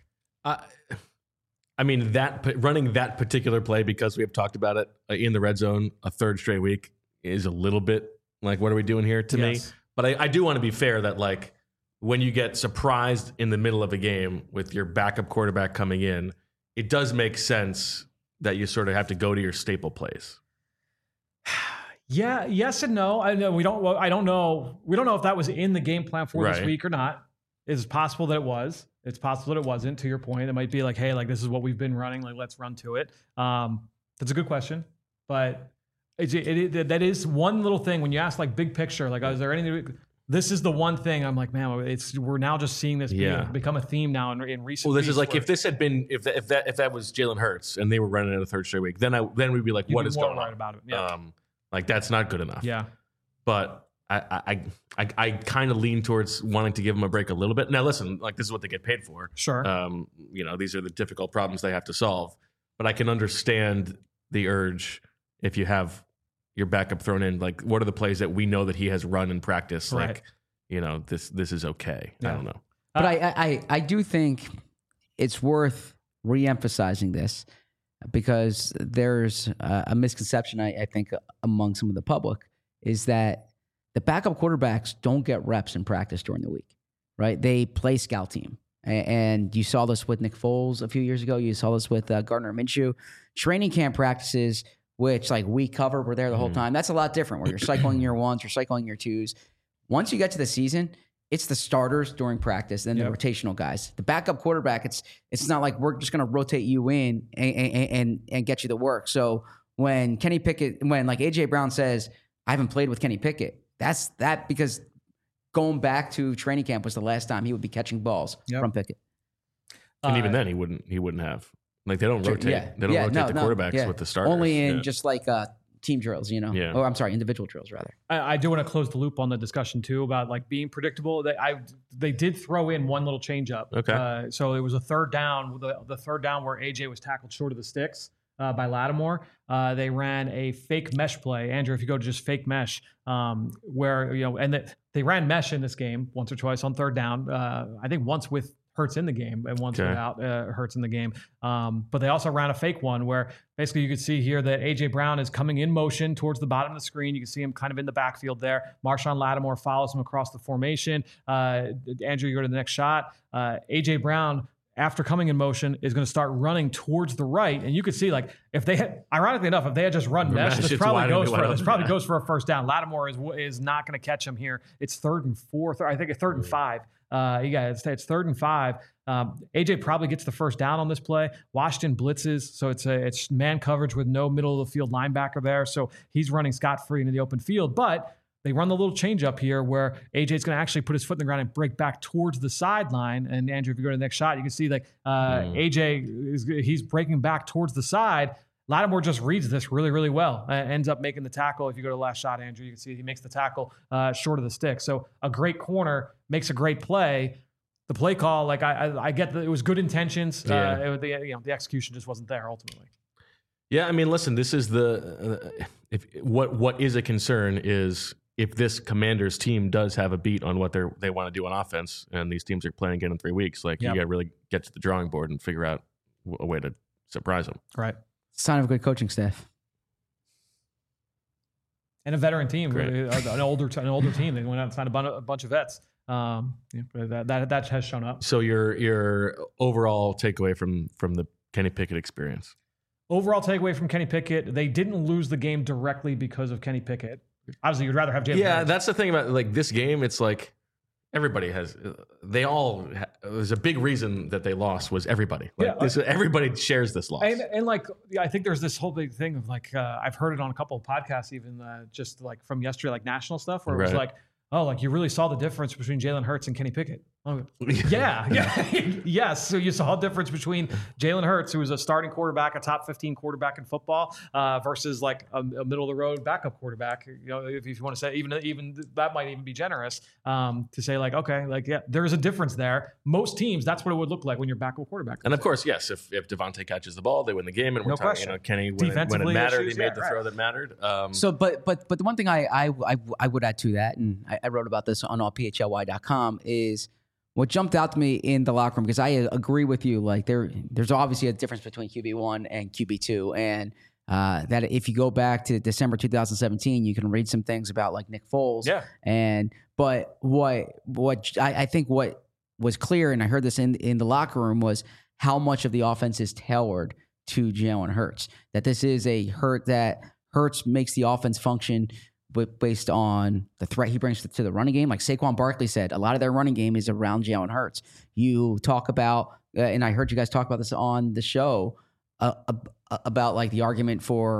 A: I mean, running that particular play, because we have talked about it in the red zone a 3rd straight week, is a little bit like, what are we doing here to me? But I do want to be fair that, like, when you get surprised in the middle of a game with your backup quarterback coming in, it does make sense that you sort of have to go to your staple plays.
C: Yeah, yes and no. I know we don't know. We don't know if that was in the game plan for this week or not. It's possible that it was. It's possible that it wasn't. To your point, it might be like, hey, like this is what we've been running. Like, let's run to it. That's a good question, but That is one little thing when you ask like big picture, like, is there anything? This is the one thing I'm like, man, we're now just seeing this become a theme now in recent.
A: Well, this is like
C: where
A: if this had been if that was Jalen Hurts and they were running it a third straight week, then we'd be like, what is going on
C: about it? Yeah.
A: Like that's not good enough.
C: Yeah.
A: But I kind of lean towards wanting to give them a break a little bit. Now, listen, like this is what they get paid for.
C: Sure.
A: These are the difficult problems they have to solve. But I can understand the urge if you have your backup thrown in. Like, what are the plays that we know that he has run in practice?
C: Right.
A: Like, this is okay.
C: Yeah.
A: I don't know.
B: But I do think it's worth re-emphasizing this because there's a misconception, I think, among some of the public is that the backup quarterbacks don't get reps in practice during the week, right? They play scout team. And you saw this with Nick Foles a few years ago. You saw this with Gardner Minshew. Training camp practices, which like we cover, we're there the whole time. That's a lot different where you're cycling year ones, you're cycling year twos. Once you get to the season, it's the starters during practice and the rotational guys. The backup quarterback, it's not like we're just going to rotate you in and get you the work. So when like AJ Brown says, I haven't played with Kenny Pickett, that's that because going back to training camp was the last time he would be catching balls from Pickett.
A: And even then he wouldn't have. Like they don't rotate.
B: Yeah.
A: They don't rotate the quarterbacks with the starters.
B: Only in just like team drills, you know.
A: Yeah.
B: Oh, I'm sorry, individual drills rather.
C: I do want to close the loop on the discussion too about like being predictable. They did throw in one little change up.
A: Okay.
C: So it was a third down. The third down where AJ was tackled short of the sticks by Lattimore. They ran a fake mesh play. Andrew, if you go to just fake mesh, where they ran mesh in this game once or twice on third down. I think once with Hurts in the game and once without Hurts in the game. But they also ran a fake one where basically you could see here that A.J. Brown is coming in motion towards the bottom of the screen. You can see him kind of in the backfield there. Marshawn Lattimore follows him across the formation. Andrew, you go to the next shot. A.J. Brown, after coming in motion, is going to start running towards the right. And you could see, like, if they had, ironically enough, if they had just run mesh, this probably goes for a first down. Lattimore is not going to catch him here. It's 3rd and 4. I think it's 3rd and 5. It's 3rd and 5. AJ probably gets the first down on this play. Washington blitzes, so it's man coverage with no middle of the field linebacker there. So he's running scot-free into the open field. But they run the little change up here where AJ's going to actually put his foot in the ground and break back towards the sideline. And Andrew, if you go to the next shot, you can see like AJ he's breaking back towards the side. Lattimore just reads this really, really well. Ends up making the tackle. If you go to the last shot, Andrew, you can see he makes the tackle short of the stick. So a great corner makes a great play. The play call, like I get that it was good intentions. The execution just wasn't there ultimately.
A: Yeah, I mean, listen, this is what is a concern is if this Commanders team does have a beat on what they want to do on offense, and these teams are playing again in 3 weeks, like you got to really get to the drawing board and figure out a way to surprise them.
C: Right.
B: Sign of a good coaching staff.
C: And a veteran team, really, an older team. They went out and signed a bunch of vets. That has shown up.
A: So your overall takeaway from the Kenny Pickett experience?
C: Overall takeaway from Kenny Pickett, they didn't lose the game directly because of Kenny Pickett. Obviously, you'd rather have Jalen Hurts.
A: That's the thing about like this game. It's like everybody has. There's a big reason that they lost was everybody. Everybody shares this loss.
C: And like I think there's this whole big thing of like I've heard it on a couple of podcasts, even just like from yesterday, like national stuff, where it was like, oh, like you really saw the difference between Jalen Hurts and Kenny Pickett. Oh, yeah. Yes. So you saw a difference between Jalen Hurts, who was a starting quarterback, a top 15 quarterback in football, versus like a middle of the road backup quarterback. You know, if you want to say even that might even be generous to say like, okay, like there is a difference there. Most teams, that's what it would look like when you're backup quarterback.
A: And of course, yes, if Devontae catches the ball, they win the game. And we're talking, Kenny when it mattered, he made the throw that mattered.
B: So, but the one thing I would add to that, and I wrote about this on allphly.com, is what jumped out to me in the locker room, because I agree with you, like there's obviously a difference between QB1 and QB2, and that if you go back to December 2017, you can read some things about like Nick Foles.
C: Yeah.
B: But what I think what was clear, and I heard this in the locker room, was how much of the offense is tailored to Jalen Hurts. That this is a Hurts makes the offense function based on the threat he brings to the running game. Like Saquon Barkley said, a lot of their running game is around Jalen Hurts. You talk about, and I heard you guys talk about this on the show, about like the argument for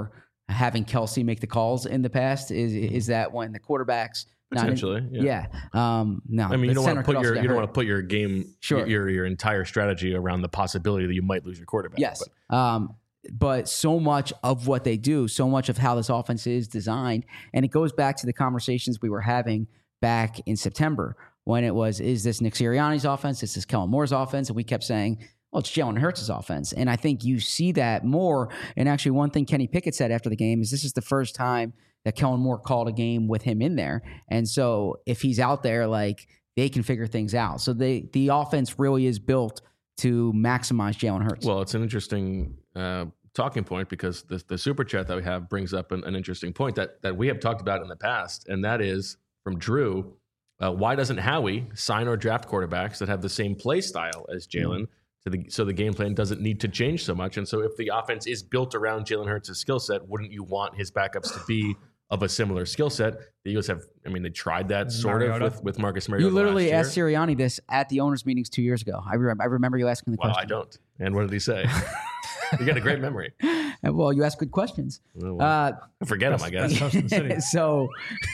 B: having Kelsey make the calls in the past. Is that when the quarterbacks
A: Potentially,
B: no.
A: I mean, you don't want to put your game,
B: Sure.
A: your entire strategy around the possibility that you might lose your quarterback.
B: Yes. But so much of what they do, so much of how this offense is designed, and it goes back to the conversations we were having back in September when it was, is this Nick Sirianni's offense? Is this Kellen Moore's offense? And we kept saying, well, it's Jalen Hurts' offense. And I think you see that more. And actually, one thing Kenny Pickett said after the game is this is the first time that Kellen Moore called a game with him in there. And so if he's out there, like, they can figure things out. So the offense really is built to maximize Jalen Hurts.
A: Well, it's an interesting talking point because the super chat that we have brings up an interesting point that we have talked about in the past, and that is from Drew. Why doesn't Howie sign or draft quarterbacks that have the same play style as Jalen? So the game plan doesn't need to change so much. And so if the offense is built around Jalen Hurts' skill set, wouldn't you want his backups to be of a similar skill set? The Eagles have, I mean, they tried that sort of with Marcus Mariota.
B: You literally asked Sirianni this at the owners' meetings 2 years ago. I remember you asking the question.
A: Well, I don't. And what did he say? You got a great memory.
B: Well, you ask good questions.
A: I forget them, I guess.
C: Best host in the city.
B: So,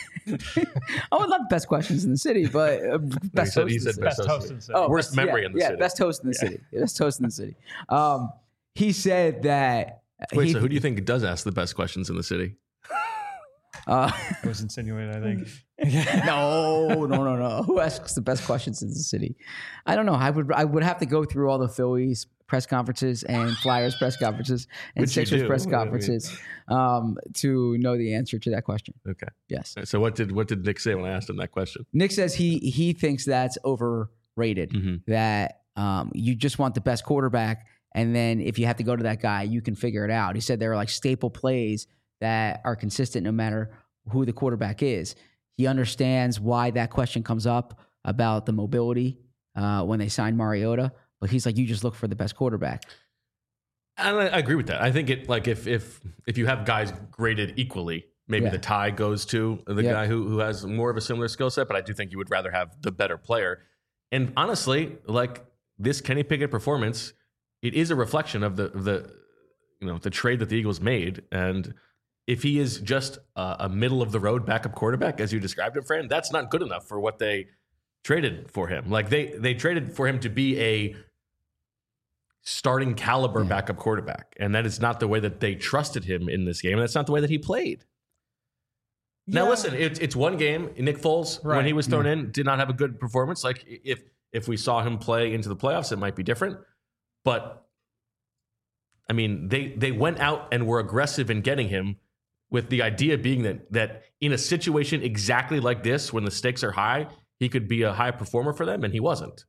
B: not best questions in the city, but best host.
A: He said best host in the city.
B: Oh,
A: worst memory in the city.
B: Best host in the city. Best host in the city. He said that.
A: Wait, so who do you think does ask the best questions in the city?
C: It was insinuated, I think.
B: No. Who asks the best questions in the city? I don't know. I would have to go through all the Phillies press conferences and Flyers press conferences and Sixers press conferences to know the answer to that question.
A: Okay.
B: Yes.
A: So what did Nick say when I asked him that question?
B: Nick says he thinks that's overrated.
A: Mm-hmm.
B: That you just want the best quarterback, and then if you have to go to that guy, you can figure it out. He said there are like staple plays that are consistent no matter who the quarterback is. He understands why that question comes up about the mobility when they signed Mariota, but he's like, you just look for the best quarterback.
A: And I agree with that. I think it like if you have guys graded equally, maybe the tie goes to the guy who has more of a similar skill set, but I do think you would rather have the better player. And honestly, like this Kenny Pickett performance, it is a reflection of the trade that the Eagles made. And if he is just a middle of the road backup quarterback, as you described him, Fran, that's not good enough for what they traded for him. Like they traded for him to be a starting caliber backup quarterback. And that is not the way that they trusted him in this game. And that's not the way that he played. Now, listen, it's one game. Nick Foles, when he was thrown in, did not have a good performance. Like if we saw him play into the playoffs, it might be different. But I mean, they went out and were aggressive in getting him with the idea being that in a situation exactly like this, when the stakes are high, he could be a high performer for them, and he wasn't.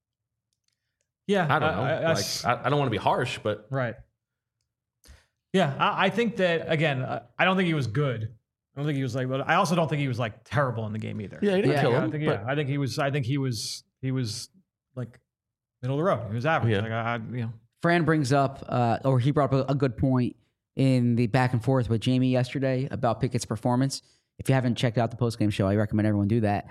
C: Yeah.
A: I don't know. I don't want to be harsh, but.
C: Right. Yeah. I think that, again, I don't think he was good. I don't think he was like, but I also don't think he was like terrible in the game either.
A: Yeah, he didn't kill him.
C: I think he was like middle of the road. He was average.
A: Yeah.
C: Like
B: Fran brings up, or he brought up a good point in the back and forth with Jamie yesterday about Pickett's performance. If you haven't checked out the postgame show, I recommend everyone do that.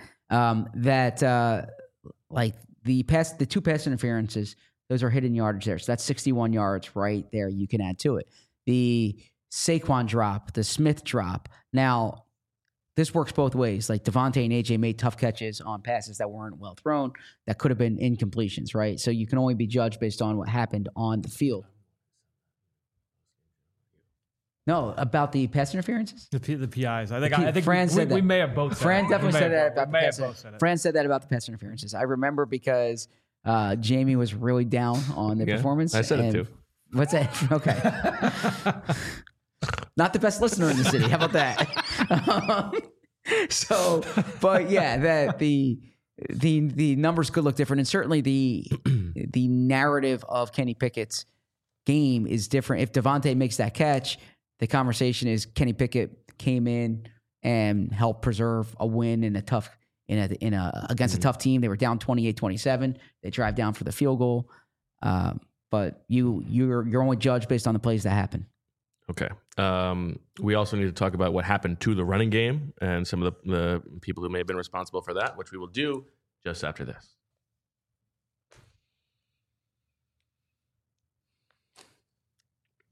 B: Like the two pass interferences, those are hidden yardage there. So that's 61 yards right there. You can add to it. The Saquon drop, the Smith drop. Now, this works both ways. Like Devontae and AJ made tough catches on passes that weren't well thrown, that could have been incompletions, right? So you can only be judged based on what happened on the field. No, about the pass interferences?
C: The PIs. I think
B: Fran said that.
C: We may have both said
B: Fran
C: it.
B: definitely said that about the pass
C: interferences.
B: Fran said that about the pass interferences. I remember because Jamie was really down on the performance.
A: I said it too.
B: What's that? Okay. Not the best listener in the city. How about that? But yeah, that the numbers could look different, and certainly the narrative of Kenny Pickett's game is different. If Devontae makes that catch, the conversation is Kenny Pickett came in and helped preserve a win in against a tough team. They were down 28-27. They drive down for the field goal. But you're only judged based on the plays that happen.
A: Okay. We also need to talk about what happened to the running game and some of the people who may have been responsible for that, which we will do just after this.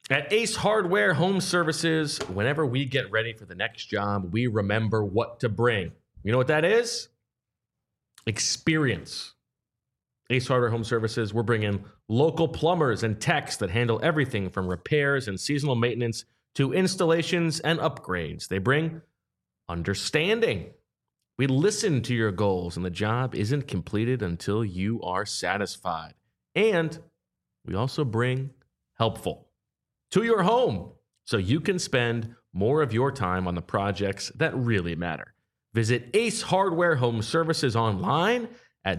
A: At Ace Hardware Home Services, whenever we get ready for the next job, we remember what to bring. You know what that is? Experience. Ace Hardware Home Services, we're bringing local plumbers and techs that handle everything from repairs and seasonal maintenance to installations and upgrades. They bring understanding. We listen to your goals, and the job isn't completed until you are satisfied. And we also bring helpful to your home so you can spend more of your time on the projects that really matter. Visit Ace Hardware Home Services online at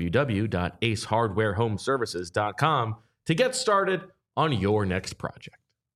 A: www.acehardwarehomeservices.com to get started on your next project.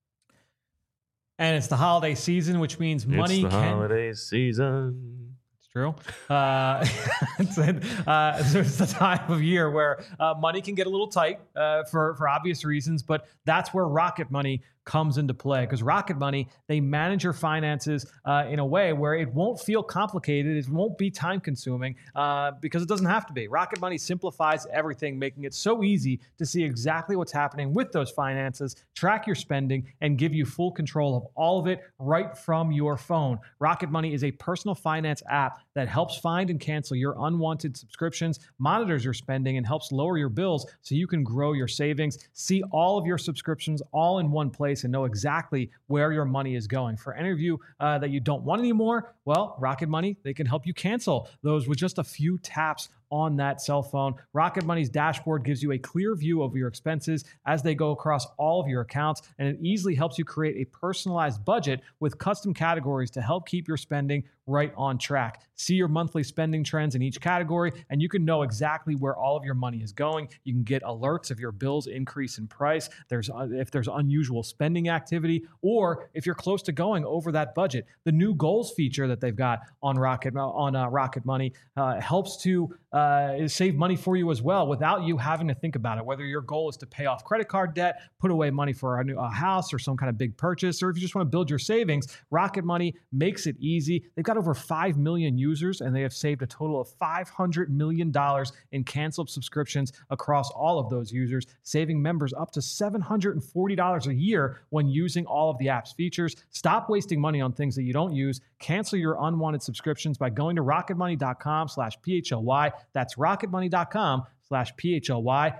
C: And it's the holiday season, which means money
A: It's the holiday season.
C: True. It's the time of year where money can get a little tight for obvious reasons, but that's where Rocket Money comes into play, because Rocket Money, they manage your finances in a way where it won't feel complicated. It won't be time consuming because it doesn't have to be. Rocket Money simplifies everything, making it so easy to see exactly what's happening with those finances, track your spending, and give you full control of all of it right from your phone. Rocket Money is a personal finance app that helps find and cancel your unwanted subscriptions, monitors your spending, and helps lower your bills so you can grow your savings, see all of your subscriptions all in one place, and know exactly where your money is going. For any of you that you don't want anymore, well, Rocket Money, they can help you cancel those with just a few taps on that cell phone. Rocket Money's dashboard gives you a clear view of your expenses as they go across all of your accounts, and it easily helps you create a personalized budget with custom categories to help keep your spending right on track. See your monthly spending trends in each category, and you can know exactly where all of your money is going. You can get alerts if your bills increase in price, if there's unusual spending activity, or if you're close to going over that budget. The new goals feature that they've got on Rocket Money helps to save money for you as well without you having to think about it. Whether your goal is to pay off credit card debt, put away money for a house or some kind of big purchase, or if you just want to build your savings, Rocket Money makes it easy. They've got over 5 million users, and they have saved a total of $500 million in canceled subscriptions across all of those users, saving members up to $740 a year when using all of the app's features. Stop wasting money on things that you don't use. Cancel your unwanted subscriptions by going to rocketmoney.com/PHLY. That's rocketmoney.com/PHLY.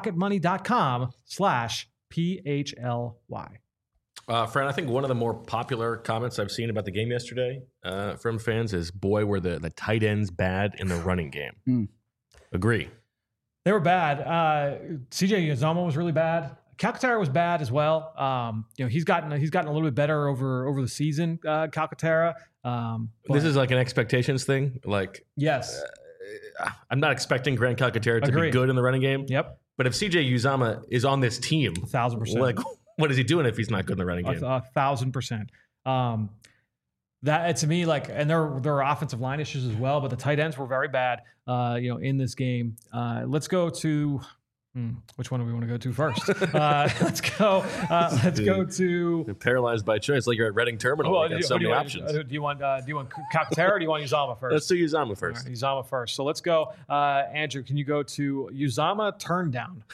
C: rocketmoney.com/PHLY.
A: Fran, I think one of the more popular comments I've seen about the game yesterday from fans is, boy, were the tight ends bad in the running game. Agree.
C: They were bad. CJ Uzomah was really bad. Calcaterra was bad as well. He's gotten a little bit better over the season, Calcaterra.
A: This is like an expectations thing. Like,
C: yes.
A: I'm not expecting Grant Calcaterra to be good in the running game.
C: Yep.
A: But if CJ Uzomah is on this team,
C: 1,000%.
A: like, what is he doing if he's not good in the running game?
C: 1,000%. That to me, like, and there are offensive line issues as well, but the tight ends were very bad, in this game. Let's go to which one do we want to go to first? Let's go to
A: Paralyzed by choice, like you're at Reading Terminal.
C: Well,
A: You got so many options.
C: Do you want Calcaterra or do you want Uzomah first?
A: Let's do Uzomah first.
C: Right, Uzomah first. So let's go. Andrew, can you go to Uzomah turn down?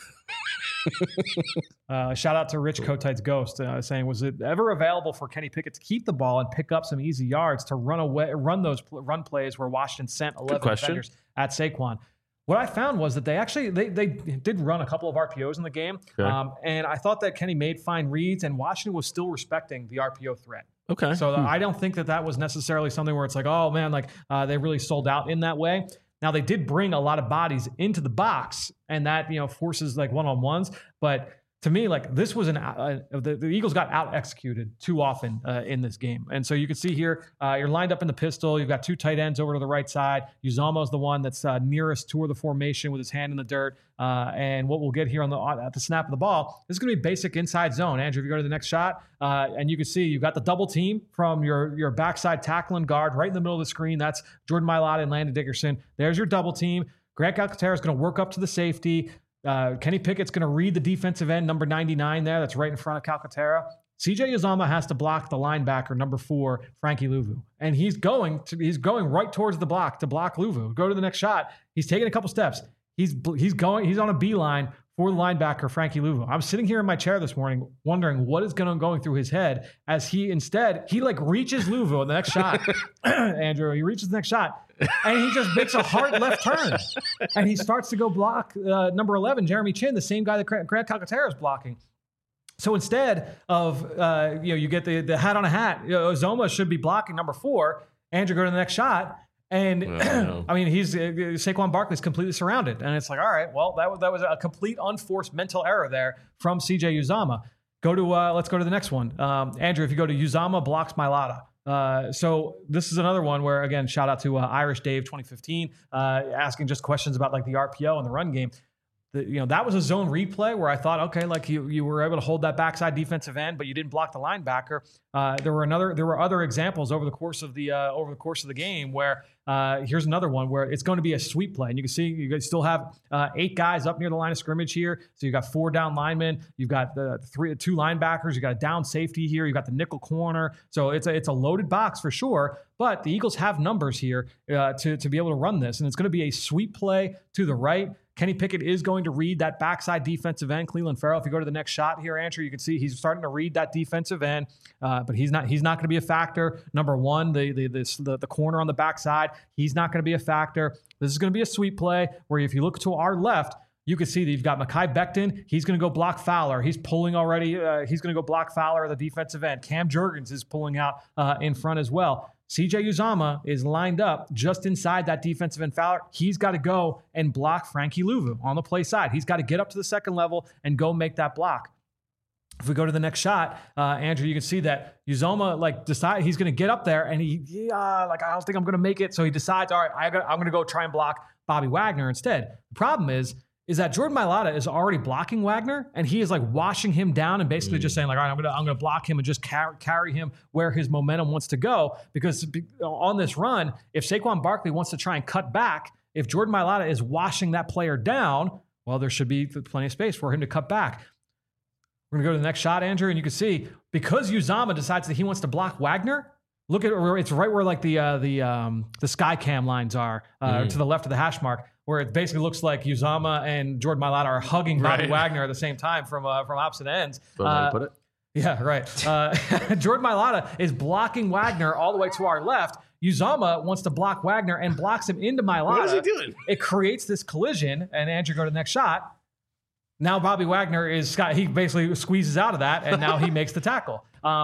C: Shout out to Rich Kotite's Ghost saying, was it ever available for Kenny Pickett to keep the ball and pick up some easy yards to run those run plays where Washington sent 11 defenders at Saquon? What I found was that they did run a couple of RPOs in the game,
A: okay.
C: And I thought that Kenny made fine reads, and Washington was still respecting the RPO threat.
A: Okay.
C: So I don't think that was necessarily something where it's like, oh man, like they really sold out in that way. Now they did bring a lot of bodies into the box, and that forces like one-on-ones, but. To me, like this was the Eagles got out executed too often in this game, and so you can see here you're lined up in the pistol. You've got two tight ends over to the right side. Uzomah is the one that's nearest toward the formation with his hand in the dirt. And what we'll get here at the snap of the ball, this is going to be basic inside zone. Andrew, if you go to the next shot, and you can see you've got the double team from your backside tackle and guard right in the middle of the screen. That's Jordan Mailata and Landon Dickerson. There's your double team. Grant Calcaterra is going to work up to the safety. Kenny Pickett's going to read the defensive end, number 99 there. That's right in front of Calcaterra. CJ Uzomah has to block the linebacker, number 4, Frankie Louvu. And he's going right towards the block to block Louvu. Go to the next shot. He's taking a couple steps. He's on a beeline for the linebacker, Frankie Louvu. I'm sitting here in my chair this morning wondering what is going through his head as he like reaches Louvu on the next shot. Andrew, he reaches the next shot and he just makes a hard left turn and he starts to go block number 11, Jeremy Chin, the same guy that Grant Calcaterra is blocking. So instead of, you get the hat on a hat, Uzomah should be blocking number 4. Andrew, go to the next shot. And I mean, Saquon Barkley's completely surrounded. And it's like, all right, well, that was a complete unforced mental error there from CJ Uzomah. Let's go to the next one. Andrew, if you go to Uzomah blocks Mailata. So this is another one where, again, shout out to Irish Dave 2015, asking just questions about like the RPO and the run game. That was a zone replay where I thought, okay, like you were able to hold that backside defensive end, but you didn't block the linebacker. There were other examples over the course of the game where here's another one where it's going to be a sweep play, and you can see you guys still have 8 guys up near the line of scrimmage here. So you got 4 down linemen, you've got 2 linebackers, you got a down safety here, you got the nickel corner. So it's a loaded box for sure. But the Eagles have numbers here to be able to run this, and it's going to be a sweep play to the right. Kenny Pickett is going to read that backside defensive end, Cleveland Farrell. If you go to the next shot here, Andrew, you can see he's starting to read that defensive end, but he's not going to be a factor. Number 1, the corner on the backside, he's not going to be a factor. This is going to be a sweep play where if you look to our left, you can see that you've got Mekhi Becton. He's going to go block Fowler. He's pulling already. He's going to go block Fowler at the defensive end. Cam Jurgens is pulling out in front as well. CJ Uzomah is lined up just inside that defensive end Fowler. He's got to go and block Frankie Louvu on the play side. He's got to get up to the second level and go make that block. If we go to the next shot, Andrew, you can see that Uzomah decide he's going to get up there and I don't think I'm going to make it. So he decides, all right, I'm going to go try and block Bobby Wagner instead. The problem is that Jordan Mailata is already blocking Wagner, and he is like washing him down and basically just saying like, all right, I'm gonna block him and just carry him where his momentum wants to go. Because on this run, if Saquon Barkley wants to try and cut back, if Jordan Mailata is washing that player down, well, there should be plenty of space for him to cut back. We're gonna go to the next shot, Andrew, and you can see because Uzomah decides that he wants to block Wagner. Look at it's right where like the sky cam lines are to the left of the hash mark, where it basically looks like Uzomah and Jordan Mailata are hugging Bobby Wagner at the same time from opposite ends.
A: Put it.
C: Yeah, right. Jordan Mailata is blocking Wagner all the way to our left. Uzomah wants to block Wagner and blocks him into Mailata.
A: What is he doing?
C: It creates this collision, and Andrew, go to the next shot. Now Bobby Wagner he basically squeezes out of that, and now he makes the tackle.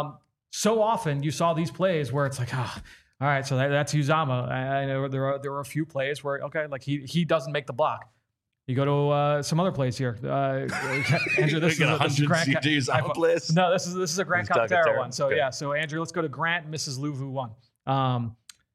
C: So often you saw these plays where it's like, all right, so that's Uzomah. I know there were a few plays where, okay, like he doesn't make the block. You go to some other plays here. Andrew, this is a Grant
A: Uzomah plays.
C: No, this is a Grant Calcaterra one. So okay. So Andrew, let's go to Grant Mrs. Louvu one.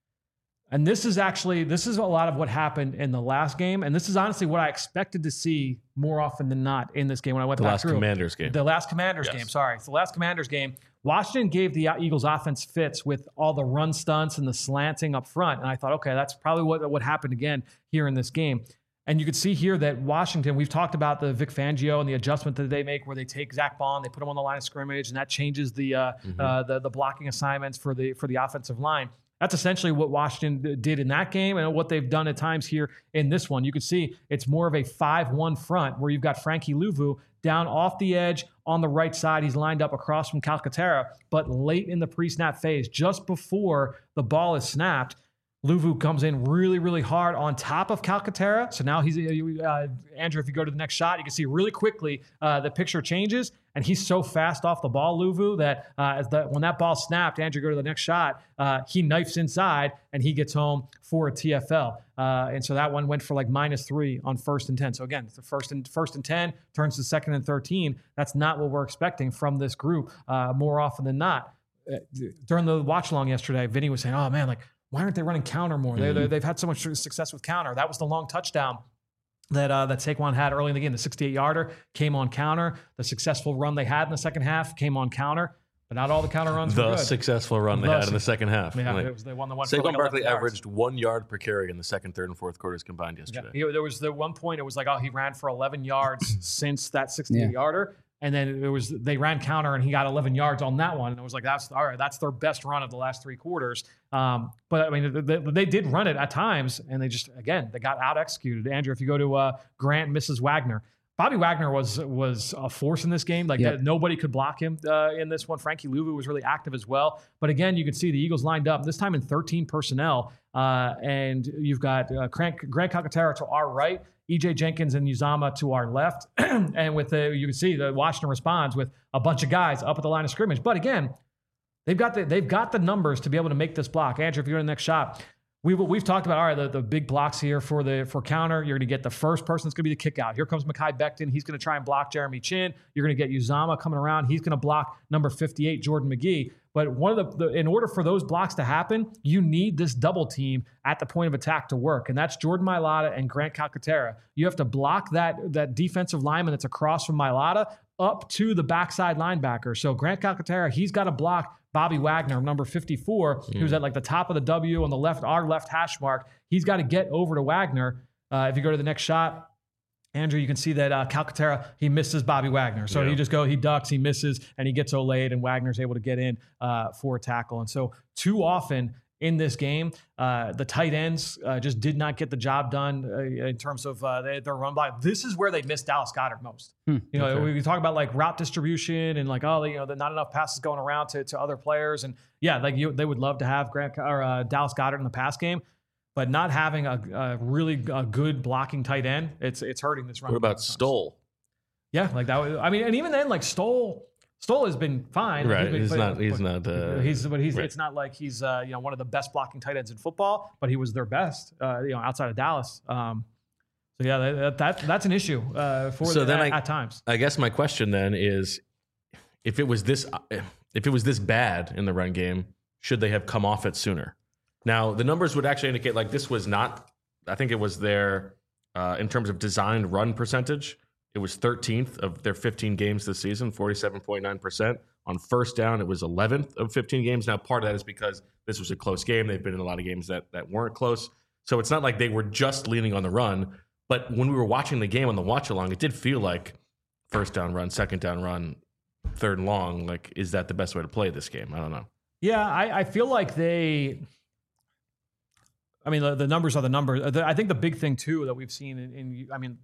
C: And this is a lot of what happened in the last game. And this is honestly what I expected to see more often than not in this game when I went back through.
A: The last Commanders game.
C: Sorry. It's the last Commanders game. Washington gave the Eagles offense fits with all the run stunts and the slanting up front. And I thought, okay, that's probably what happened again here in this game. And you could see here that Washington, we've talked about the Vic Fangio and the adjustment that they make where they take Zach Bond, they put him on the line of scrimmage, and that changes the blocking assignments for the offensive line. That's essentially what Washington did in that game and what they've done at times here in this one. You can see it's more of a 5-1 front where you've got Frankie Louvu down off the edge on the right side. He's lined up across from Calcaterra, but late in the pre-snap phase, just before the ball is snapped, Louvu comes in really, really hard on top of Calcaterra. So now he's Andrew, if you go to the next shot, you can see really quickly the picture changes, and he's so fast off the ball, Louvu, that when that ball snapped, Andrew, go to the next shot, he knifes inside, and he gets home for a TFL. And so that one went for like -3 on 1st and 10. So again, the first and 10 turns to 2nd and 13. That's not what we're expecting from this group more often than not. During the watch along yesterday, Vinny was saying, oh man, like, why aren't they running counter more? They've had so much success with counter. That was the long touchdown that Saquon had early in the game. The 68-yarder came on counter. The successful run they had in the second half came on counter. But not all the counter runs were good.
A: The successful run they had in the second half.
C: Yeah, they won the one.
A: Saquon Barkley averaged 1 yard per carry in the second, third, and fourth quarters combined yesterday.
C: Yeah. There was the one point, it was like, he ran for 11 yards since that 68-yarder. And then they ran counter and he got 11 yards on that one. And it was like, that's their best run of the last 3 quarters. But I mean, they did run it at times, and they got out executed. Andrew, if you go to Grant, Mrs. Wagner, Bobby Wagner was a force in this game. Like nobody could block him in this one. Frankie Louvu was really active as well. But again, you can see the Eagles lined up this time in 13 personnel, and you've got Grant Calcaterra to our right, EJ Jenkins and Uzama to our left, and with you can see the Washington responds with a bunch of guys up at the line of scrimmage. But again, they've got the numbers to be able to make this block. Andrew, if you're in the next shot. We've talked about, all right, the big blocks here for counter. You're going to get the first person that's going to be the kick out. Here comes Mekhi Becton. He's going to try and block Jeremy Chin. You're going to get Uzama coming around. He's going to block number 58, Jordan McGee. But one of in order for those blocks to happen, you need this double team at the point of attack to work. And that's Jordan Mailata and Grant Calcaterra. You have to block that defensive lineman that's across from Mailata up to the backside linebacker. So Grant Calcaterra, he's got to block Bobby Wagner, number 54, who's at like the top of the W on the left, our left hash mark. He's got to get over to Wagner. If you go to the next shot, Andrew, you can see that Calcaterra, he misses Bobby Wagner. So he ducks, he misses, and he gets Olayed, and Wagner's able to get in for a tackle. And so too often in this game, the tight ends just did not get the job done in terms of their run block. This is where they missed Dallas Goedert most. We talk about like route distribution and like, not enough passes going around to other players. And they would love to have Dallas Goedert in the pass game, but not having a really good blocking tight end, it's hurting this run.
A: What about Stoll?
C: Yeah, like that was, and even then, like Stoll has been fine.
A: Right.
C: It's not
A: like
C: he's one of the best blocking tight ends in football, but he was their best, outside of Dallas. That's an issue at times.
A: I guess my question then is, if it was this bad in the run game, should they have come off it sooner? Now, the numbers would actually indicate like this was not, I think it was their, in terms of designed run percentage, it was 13th of their 15 games this season, 47.9%. On first down, it was 11th of 15 games. Now, part of that is because this was a close game. They've been in a lot of games that weren't close. So it's not like they were just leaning on the run. But when we were watching the game on the watch-along, it did feel like first down run, second down run, third and long. Like, is that the best way to play this game? I don't know.
C: Yeah, I feel like the numbers are the numbers. I think the big thing, too, that we've seen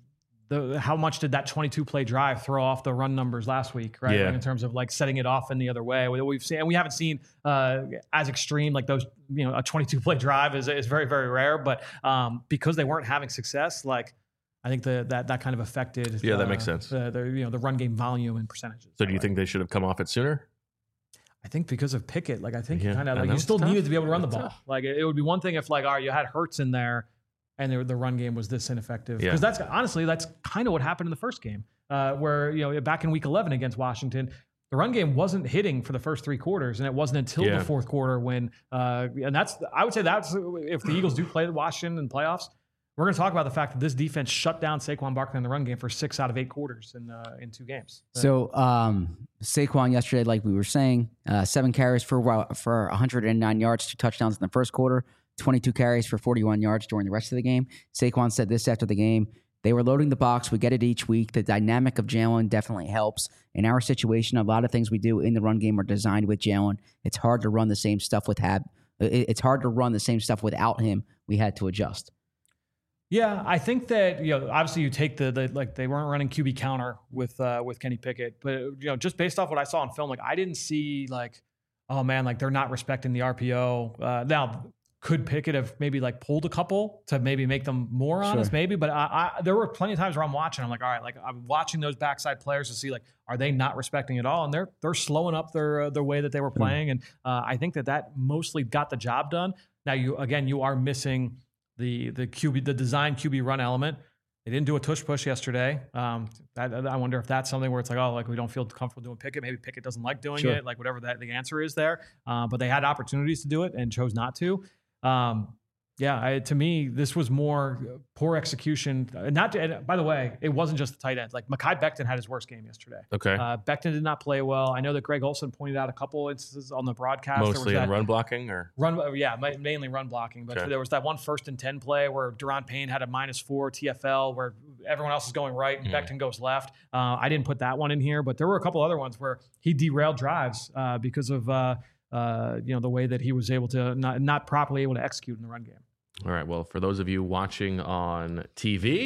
C: how much did that 22-play drive throw off the run numbers last week, right?
A: Yeah.
C: In terms of like setting it off in the other way. We've seen, and we haven't seen as extreme like those. A 22-play drive is very, very rare. But because they weren't having success, like I think that kind of affected.
A: Yeah, that makes sense.
C: The run game volume and percentages.
A: So do you think they should have come off it sooner?
C: I think because of Pickett, like I think you still needed to be able to run the ball. Tough. Like it would be one thing if you had Hurts in there, and the run game was this ineffective. Because that's kind of what happened in the first game, where back in Week 11 against Washington, the run game wasn't hitting for the first three quarters, and it wasn't until the fourth quarter when. And I would say that's if the Eagles do play Washington in playoffs, we're going to talk about the fact that this defense shut down Saquon Barkley in the run game for 6 out of 8 quarters in 2 games.
B: So Saquon yesterday, like we were saying, 7 carries for 109 yards, 2 touchdowns in the first quarter. 22 carries for 41 yards during the rest of the game. Saquon said this after the game: they were loading the box. We get it each week. The dynamic of Jalen definitely helps. In our situation, a lot of things we do in the run game are designed with Jalen. It's hard to run the same stuff it's hard to run the same stuff without him. We had to adjust.
C: Yeah, I think that obviously you take the they weren't running QB counter with Kenny Pickett, but just based off what I saw on film, like I didn't see like, oh man, like they're not respecting the RPO. Now, could Pickett have maybe like pulled a couple to maybe make them more honest, maybe? But there were plenty of times where I'm watching. I'm like, all right, like I'm watching those backside players to see like, are they not respecting it all? And they're slowing up their way that they were playing. And I think that mostly got the job done. Now you are missing the QB, the design QB run element. They didn't do a tush push yesterday. I wonder if that's something where it's like, oh, like we don't feel comfortable doing Pickett. Maybe Pickett doesn't like doing it, like whatever the answer is there. But they had opportunities to do it and chose not to. To me, this was more poor execution. And by the way, it wasn't just the tight ends. Like Mekhi Becton had his worst game yesterday.
A: Okay.
C: Becton did not play well. I know that Greg Olsen pointed out a couple instances on the broadcast.
A: Mostly in run blocking or?
C: Mainly run blocking. But there was that one 1st and 10 play where Daron Payne had a -4 TFL where everyone else is going right and Becton goes left. I didn't put that one in here, but there were a couple other ones where he derailed drives because of the way that he was able to not properly able to execute in the run game.
A: All right. Well, for those of you watching on TV,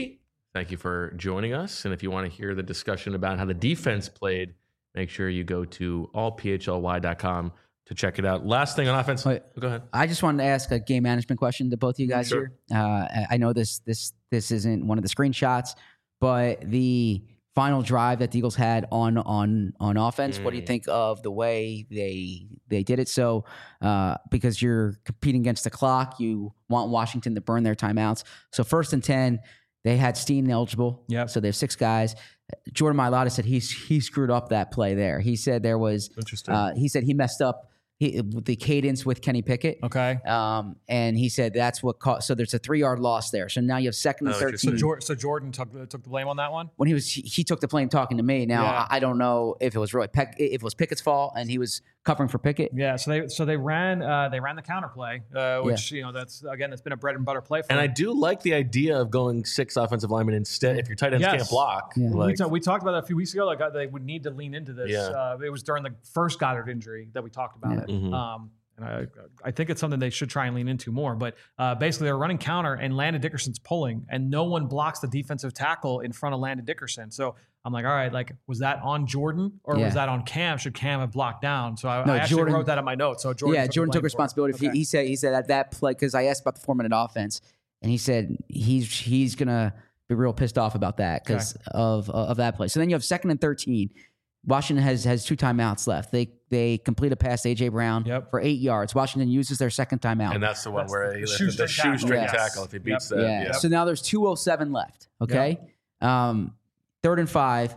A: Thank you for joining us. And if you want to hear the discussion about how the defense played, make sure you go to allphly.com to check it out. Last thing on offense.
B: Wait.
A: Go ahead.
B: I just wanted to ask a game management question to both of you guys
A: Sure.
B: here. I know this isn't one of the screenshots, but the final drive that the Eagles had on offense, what do you think of the way they did it? So because you're competing against the clock, you want Washington to burn their timeouts. So 1st and 10, they had Steen eligible.
C: Yep.
B: So they have 6 guys. Jordan Mailata said he screwed up that play there. He said there was
A: Interesting.
B: he said he messed up the cadence with Kenny Pickett.
C: Okay.
B: And he said that's what caused. So there's a 3-yard loss there. So now you have 2nd and 13.
C: So Jordan took the blame on that one?
B: When he took the blame talking to me. Now
C: Yeah.
B: I don't know if it was really if it was Pickett's fault and he was covering for Pickett.
C: Yeah, so they ran the counter play, which that's been a bread and butter play for
A: And
C: them.
A: I do like the idea of going 6 offensive linemen instead. If your tight ends
C: Yes.
A: can't block,
B: Yeah.
A: like,
C: We talked about that a few weeks ago. Like they would need to lean into this.
A: Yeah.
C: It was during the first Goddard injury that we talked about it.
A: Mhm.
C: And I think it's something they should try and lean into more. But basically, they're running counter, and Landon Dickerson's pulling, and no one blocks the defensive tackle in front of Landon Dickerson. So I'm like, all right, like was that on Jordan or
B: Yeah.
C: was that on Cam? Should Cam have blocked down? So I
B: No,
C: actually
B: Jordan-
C: wrote that in my notes. So Jordan
B: Jordan took
C: the blame for it.
B: responsibility.
C: Okay.
B: He said that play because I asked about the 4-minute offense, and he said he's gonna be real pissed off about that because of that play. So then you have 2nd and 13. Washington has 2 timeouts left. They complete a pass to A.J. Brown
C: Yep.
B: for 8 yards. Washington uses their 2nd timeout.
A: and that's the one
C: That's
A: where
C: the
A: he
C: shoestring
A: the shoestring
C: tackle.
A: tackle. If he beats
C: Yep.
A: that,
B: yeah.
A: yeah.
B: So now there's 2:07 left. Okay. 3rd and 5.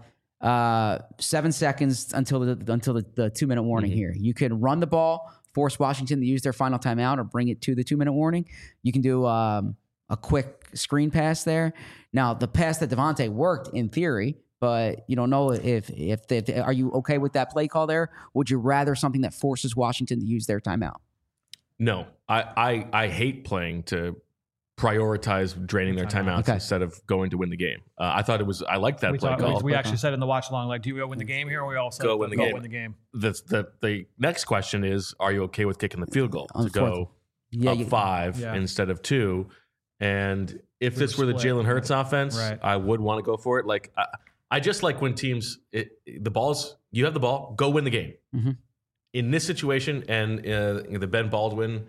B: 7 seconds until the 2-minute warning here. You can run the ball, force Washington to use their final timeout, or bring it to the 2-minute warning. You can do a quick screen pass there. Now the pass that Devontae worked in theory, but you don't know if are you okay with that play call there? Would you rather something that forces Washington to use their timeout?
A: No, I hate playing to prioritize draining their timeouts
B: Okay.
A: instead of going to win the game. I like that play call.
C: We actually said in the watch along, like, do you go win the game here, or we all said
A: Go win the game.
C: Win the game.
A: The next question is, are you okay with kicking the field goal
B: On
A: to
B: the
A: go up 5
C: Yeah.
A: instead of 2? And if
C: We
A: this
C: were
A: were the
C: split,
A: Jalen Hurts offense,
C: Right.
A: I would want to go for it. Like I just like when teams the ball's you have the ball, go win the game.
B: Mhm.
A: In this situation, and the Ben Baldwin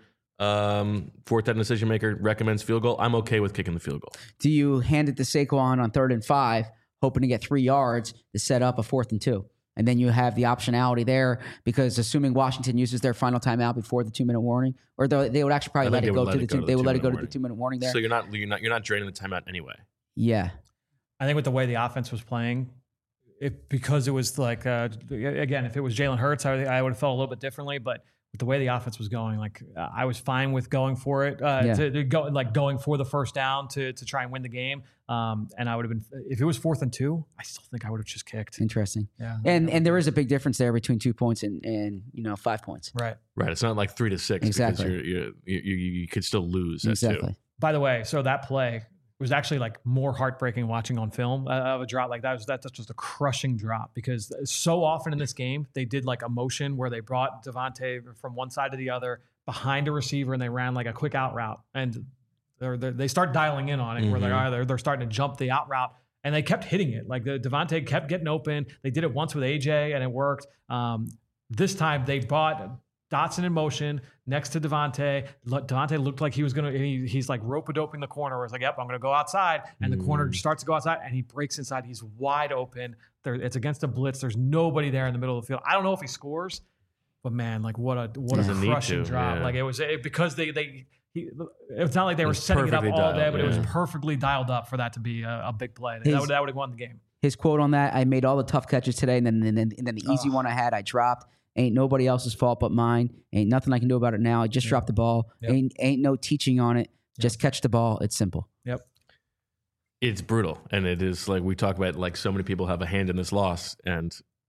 A: 4th down decision maker recommends field goal, I'm okay with kicking the field goal.
B: Do you hand it to Saquon on 3rd and 5, hoping to get 3 yards to set up a 4th and 2? And then you have the optionality there because assuming Washington uses their final timeout before the 2-minute warning, or they would actually probably
A: I
B: let
A: think
B: it
A: they
B: go
A: would
B: to
A: let
B: the
A: it go to
B: they
A: the
B: would let it go to
A: 2-minute
B: the 2-minute warning there.
A: So you're not draining the timeout anyway.
B: Yeah.
C: I think with the way the offense was playing, because it was like again, if it was Jalen Hurts, I would have felt a little bit differently. But with the way the offense was going, like I was fine with going for it, going for the first down to try and win the game. And I would have been, if it was 4th and 2, I still think I would have just kicked.
B: Interesting.
C: Yeah,
B: And there is a big difference there between 2 points and 5 points.
C: right.
A: Right. It's not like 3 to 6
B: Exactly.
A: because you could still lose at 2.
B: Exactly.
C: By the way, so that play was actually like more heartbreaking watching on film of a drop like that. That's just a crushing drop because so often in this game they did like a motion where they brought Devontae from one side to the other behind a receiver and they ran like a quick out route and they start dialing in on it. Where they're starting to jump the out route and they kept hitting it. Like the Devontae kept getting open. They did it once with AJ and it worked. This time they brought Dotson in motion next to Devontae. Devontae looked like he was going to, he's like rope-a-doping the corner where it's like, yep, I'm going to go outside. And the corner starts to go outside and he breaks inside. He's wide open. It's against a blitz. There's nobody there in the middle of the field. I don't know if he scores, but man, like what a
A: Doesn't need
C: crushing
A: to,
C: drop.
A: yeah.
C: Like it was because it's not like they were setting it up
A: perfectly
C: all day,
A: dialed,
C: but it was
A: yeah.
C: perfectly dialed up for that to be a big play.
B: His-
C: That would have won the game.
B: His quote on that: "I made all the tough catches today, and then the easy one I had, I dropped. Ain't nobody else's fault but mine. Ain't nothing I can do about it now. I just dropped the ball.
C: Yep.
B: Ain't no teaching on it. Just catch the ball. It's simple."
C: Yep.
A: It's brutal, and it is like we talk about. Like so many people have a hand in this loss, and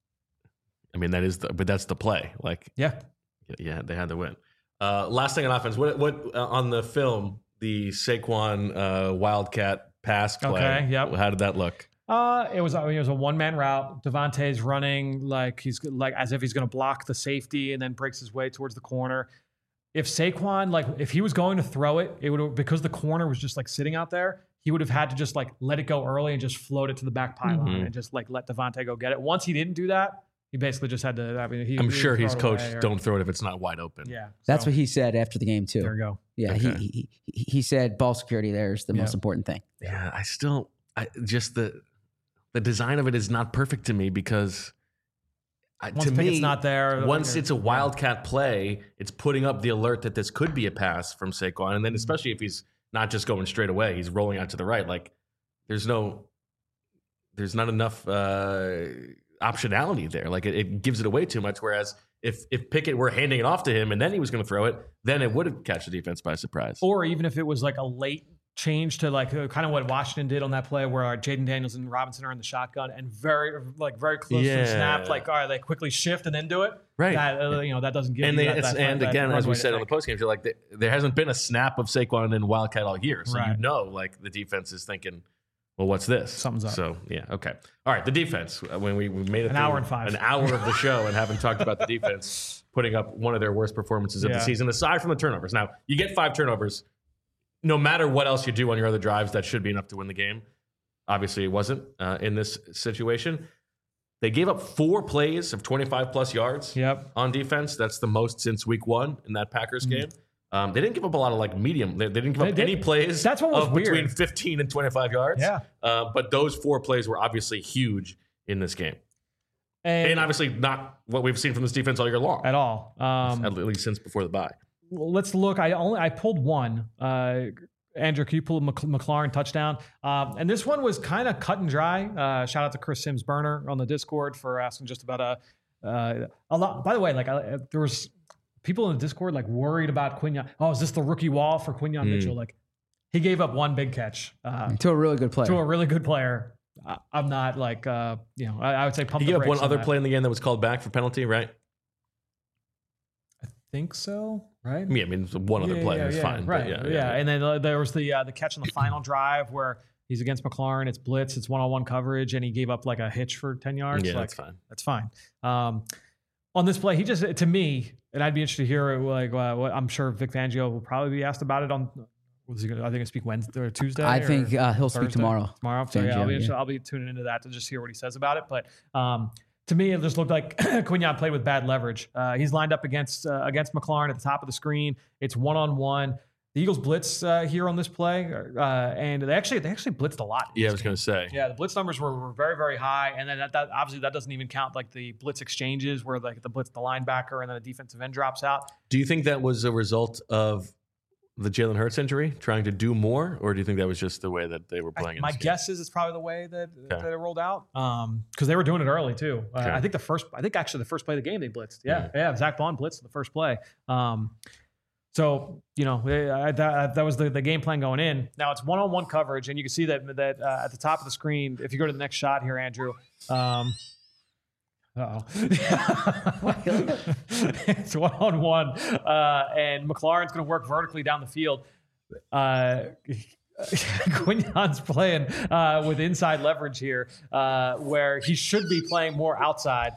A: I mean but that's the play. Like
C: Yeah.
A: yeah, they had to win. Last thing on offense, what on the film, the Saquon Wildcat pass play?
C: Okay, yep.
A: How did that look?
C: It was a one-man route. Devontae's running like he's like as if he's going to block the safety and then breaks his way towards the corner. If Saquon, like if he was going to throw it, it would, because the corner was just like sitting out there, he would have had to just like let it go early and just float it to the back pylon and just like let Devontae go get it. Once he didn't do that, he basically just had to. I mean,
A: I'm sure he's coached, don't throw it if it's not wide open.
C: Yeah,
B: That's what he said after the game too.
C: There we go.
B: Yeah,
A: Okay.
B: he said ball security there is the most important thing.
A: Yeah, just the design of it is not perfect to me because
C: Once
A: to me
C: Pickett's not there,
A: once it's a wildcat play, it's putting up the alert that this could be a pass from Saquon, and then especially if he's not just going straight away, he's rolling out to the right. Like there's not enough optionality there. Like it gives it away too much. Whereas if Pickett were handing it off to him and then he was going to throw it, then it would have catch the defense by surprise.
C: Or even if it was like a late change to like kind of what Washington did on that play where Jaden Daniels and Robinson are in the shotgun and very close to the snap, like all right, they quickly shift and then do it.
A: Right.
C: That doesn't give
A: and
C: you
A: and again, as we said on the postgame show, like there hasn't been a snap of Saquon in Wildcat all year, so like the defense is thinking, well, what's this?
C: Something's up.
A: So yeah, okay, all right. The defense, when we made it
C: an hour and 5,
A: an hour of the show, and haven't talked about the defense putting up one of their worst performances of the season, aside from the turnovers. Now you get 5 turnovers. No matter what else you do on your other drives, that should be enough to win the game. Obviously, it wasn't in this situation. They gave up 4 plays of 25-plus yards on defense. That's the most since week 1 in that Packers game. They didn't give up a lot of like medium. They didn't give up any plays
C: That's what was
A: of
C: weird.
A: between 15 and 25 yards.
C: Yeah.
A: But those 4 plays were obviously huge in this game. And obviously not what we've seen from this defense all year long.
C: At all.
A: At least since before the bye.
C: Let's look. I pulled one. Andrew, can you pull a McLaurin touchdown? And this one was kind of cut and dry. Shout out to Chris Sims Burner on the Discord for asking just about a lot. By the way, like there was people in the Discord like worried about Quinyon. Oh, is this the rookie wall for Quinyon Mitchell? Like he gave up one big catch
B: to a really good player.
C: To a really good player. I'm not like I would say pump.
A: He gave up one other play in the game that was called back for penalty, right?
C: I think so. Right?
A: Yeah, I mean, one other play is fine.
C: Right.
A: But
C: And then there was the catch on the final drive where he's against McLaurin. It's blitz. It's one-on-one coverage, and he gave up like a hitch for 10 yards.
A: Yeah,
C: like,
A: that's fine.
C: That's fine. On this play, he just to me, and I'd be interested to hear like what I'm sure Vic Fangio will probably be asked about it on. Was he gonna, I think he'll speak Wednesday or Tuesday.
B: I think he'll speak tomorrow.
C: Tomorrow. So
B: Fangio,
C: I'll be tuning into that to just hear what he says about it. But to me, it just looked like Quinyon played with bad leverage. He's lined up against McLaurin at the top of the screen. It's one-on-one. The Eagles blitz here on this play, and they actually blitzed a lot.
A: Yeah, I was going to say.
C: Yeah, the blitz numbers were very, very high, and then that obviously that doesn't even count like the blitz exchanges where like the blitz the linebacker and then a defensive end drops out.
A: Do you think that was a result of the Jalen Hurts injury, trying to do more, or do you think that was just the way that they were playing?
C: My guess is it's probably the way that it rolled out, because they were doing it early too. I think actually the first play of the game they blitzed. Yeah, Zach Bond blitzed the first play. So that was the game plan going in. Now it's one-on-one coverage, and you can see that at the top of the screen. If you go to the next shot here, Andrew. It's one-on-one, and McLaurin's going to work vertically down the field. Quinyon's playing with inside leverage here, where he should be playing more outside,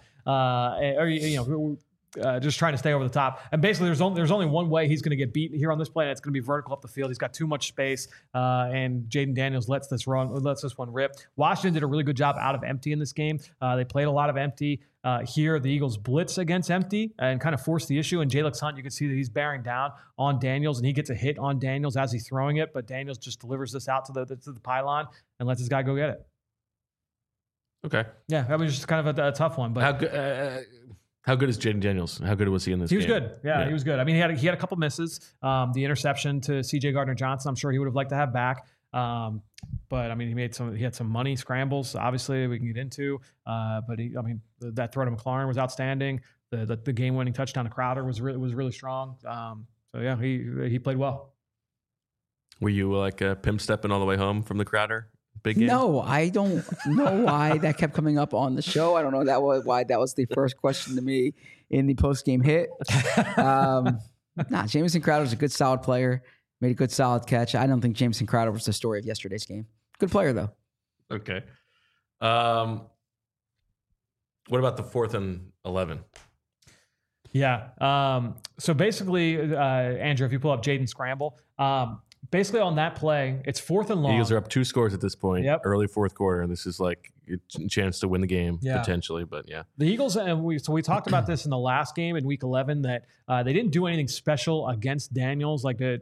C: just trying to stay over the top. And basically, there's only one way he's going to get beat here on this play, and it's going to be vertical up the field. He's got too much space, and Jaden Daniels lets this one rip. Washington did a really good job out of empty in this game. They played a lot of empty. Here, the Eagles blitz against empty and kind of force the issue. And Jalen Hunt, you can see that he's bearing down on Daniels, and he gets a hit on Daniels as he's throwing it, but Daniels just delivers this out to the pylon and lets his guy go get it.
A: Okay.
C: Yeah, that was just kind of a tough one. But
A: how good is Jaden Daniels? How good was he in this game?
C: He was good. Yeah, he was good. I mean, he had a couple misses. The interception to C.J. Gardner-Johnson, I'm sure he would have liked to have back. But I mean, he had some money scrambles. Obviously, we can get into. But that throw to McLaurin was outstanding. The game-winning touchdown to Crowder was really strong. So yeah, he played well.
A: Were you like pimp stepping all the way home from the Crowder big game?
B: No, I don't know why that kept coming up on the show. I don't know why that was the first question to me in the post-game hit. Jamison Crowder's a good, solid player. Made a good, solid catch. I don't think Jamison Crowder was the story of yesterday's game. Good player, though.
A: Okay. What about the 4th and 11?
C: Yeah. So basically, Andrew, if you pull up Jaden Scramble, basically on that play, it's 4th and long.
A: Eagles are up 2 scores at this point.
C: Yep.
A: Early fourth quarter. This is like a chance to win the game potentially, but yeah.
C: The Eagles, and we talked about this in the last game in Week 11 that they didn't do anything special against Daniels, like we're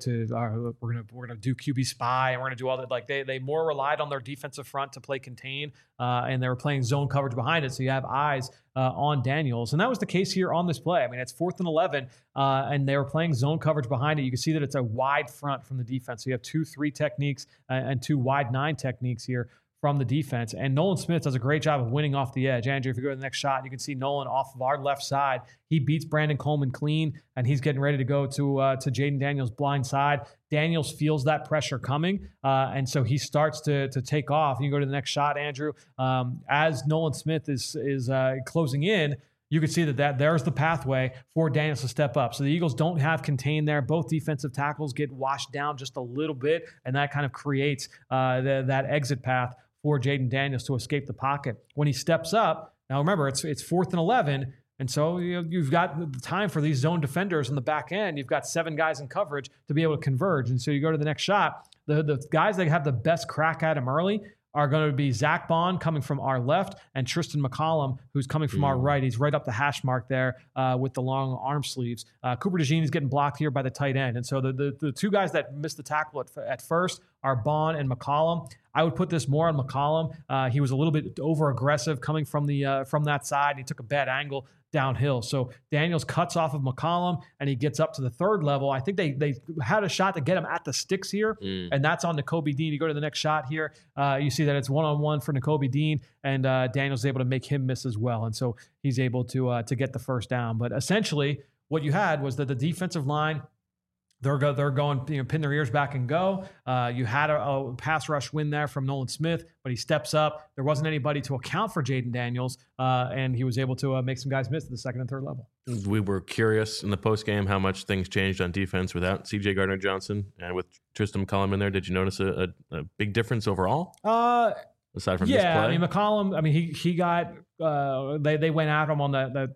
C: gonna do QB spy and we're gonna do all that. Like they more relied on their defensive front to play contain, and they were playing zone coverage behind it, so you have eyes on Daniels, and that was the case here on this play. I mean, it's 4th and 11, and they were playing zone coverage behind it. You can see that it's a wide front from the defense. So you have 2-3 techniques and 2 wide 9 techniques here from the defense. And Nolan Smith does a great job of winning off the edge. Andrew, if you go to the next shot, you can see Nolan off of our left side. He beats Brandon Coleman clean, and he's getting ready to go to Jayden Daniels' blind side. Daniels feels that pressure coming, and so he starts to take off. You go to the next shot, Andrew. As Nolan Smith is closing in, you can see that there's the pathway for Daniels to step up. So the Eagles don't have contain there. Both defensive tackles get washed down just a little bit, and that kind of creates that exit path for Jayden Daniels to escape the pocket. When he steps up, now remember, it's 4th and 11, and so you've got the time for these zone defenders on the back end. You've got 7 guys in coverage to be able to converge, and so you go to the next shot. The guys that have the best crack at him early are going to be Zach Bond coming from our left and Tristan McCollum, who's coming from our right. He's right up the hash mark there with the long arm sleeves. Cooper DeJean is getting blocked here by the tight end. And so the 2 guys that missed the tackle at first are Bond and McCollum. I would put this more on McCollum. He was a little bit over aggressive coming from that side. He took a bad angle downhill. So Daniels cuts off of McCollum and he gets up to the 3rd level. I think they had a shot to get him at the sticks here, and that's on Nakobe Dean. You go to the next shot here, you see that it's 1-on-1 for Nakobe Dean, and Daniels is able to make him miss as well. And so he's able to get the first down. But essentially what you had was that the defensive line, they're going, pin their ears back and go. You had a pass rush win there from Nolan Smith, but he steps up. There wasn't anybody to account for Jayden Daniels, and he was able to make some guys miss at the 2nd and 3rd level.
A: We were curious in the postgame how much things changed on defense without C.J. Gardner-Johnson and with Tristan McCollum in there. Did you notice a big difference overall? Aside from this play?
C: I mean, McCollum, he got they went at him on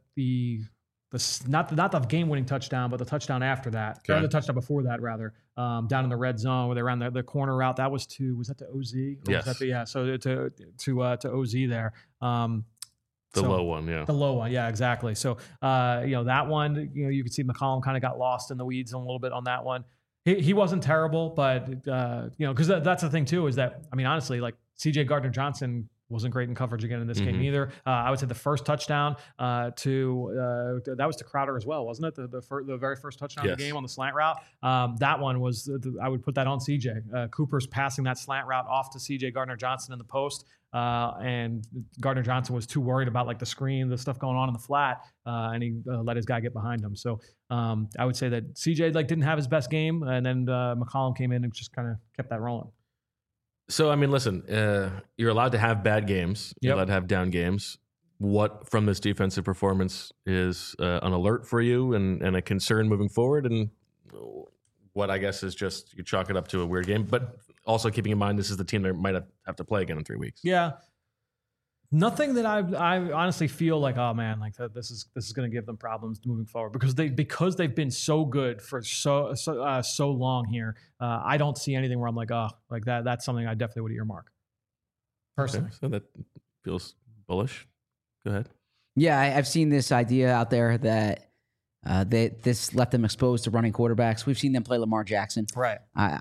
C: not the game-winning touchdown, but the touchdown after that, or the touchdown before that, rather, down in the red zone where they ran the corner route. That was that to OZ?
A: Yes.
C: So to OZ there.
A: The low one, yeah.
C: The low one, yeah, exactly. So that one, you could see McCollum kind of got lost in the weeds a little bit on that one. He wasn't terrible, but because that's the thing too, is that, I mean, honestly, like C.J. Gardner-Johnson wasn't great in coverage again in this game either. I would say the first touchdown that was to Crowder as well, wasn't it? The very first touchdown of the game on the slant route. That one was, I would put that on CJ. Cooper's passing that slant route off to CJ Gardner-Johnson in the post. And Gardner-Johnson was too worried about like the screen, the stuff going on in the flat, and he let his guy get behind him. So I would say that CJ didn't have his best game, and then McCollum came in and just kind of kept that rolling.
A: So, I mean, listen, you're allowed to have bad games. You're allowed to have down games. What from this defensive performance is an alert for you and a concern moving forward? And what I guess is just you chalk it up to a weird game, but also keeping in mind this is the team that might have to play again in 3 weeks.
C: Yeah. Nothing that I honestly feel like, oh man, like this is going to give them problems moving forward because they've been so good for so long here. I don't see anything where I'm like, oh, like that's something I definitely would earmark personally.
A: Okay, so that feels bullish. Go ahead.
B: Yeah, I've seen this idea out there that this left them exposed to running quarterbacks. We've seen them play Lamar Jackson.
C: Right.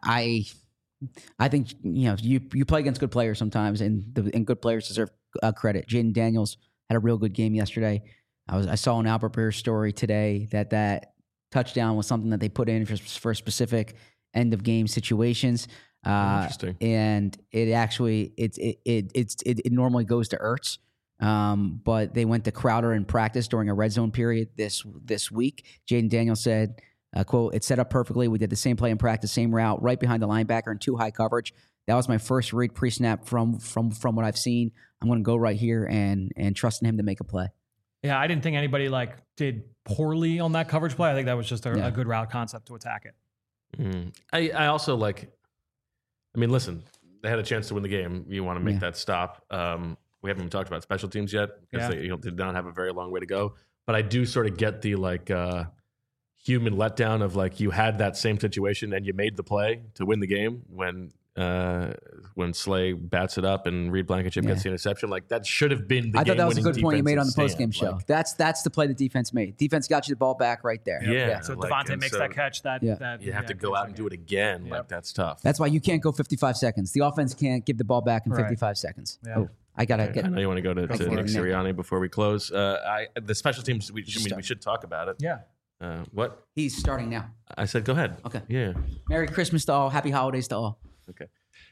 B: I think you play against good players sometimes, and good players deserve credit. Jayden Daniels had a real good game yesterday. I saw an Albert Beer story today that touchdown was something that they put in for specific end of game situations.
A: Interesting.
B: And it actually it normally goes to Ertz. But they went to Crowder in practice during a red zone period this week. Jayden Daniels said, quote, "It's set up perfectly. We did the same play in practice, same route, right behind the linebacker in 2 high coverage. That was my first read pre-snap from what I've seen. I'm going to go right here and trust in him to make a play."
C: Yeah, I didn't think anybody did poorly on that coverage play. I think that was just a good route concept to attack it.
A: I also listen, they had a chance to win the game. You want to make that stop. We haven't even talked about special teams yet because they did not have a very long way to go. But I do sort of get the human letdown of like you had that same situation and you made the play to win the game when Slay bats it up and Reed Blankenship gets the interception. Like that should have been the
B: I thought that was a good point you made on the
A: stand.
B: post-game show.
A: Like,
B: that's the play the defense made. Defense got you the ball back right there.
A: Yeah.
C: So
A: like,
C: Devontae makes that catch. That
A: you have to go out and do it again. Like that's tough.
B: That's why you can't go 55 seconds. The offense can't give the ball back in 55 seconds.
C: Yeah.
B: Oh, I gotta get.
A: I know you want to go to Nick
B: Nick.
A: Sirianni before we close. The special teams. We should talk about it.
C: Yeah.
A: What?
B: He's starting now.
A: I said, go ahead.
B: Okay.
A: Yeah.
B: Merry Christmas to all. Happy holidays to all.
A: Okay.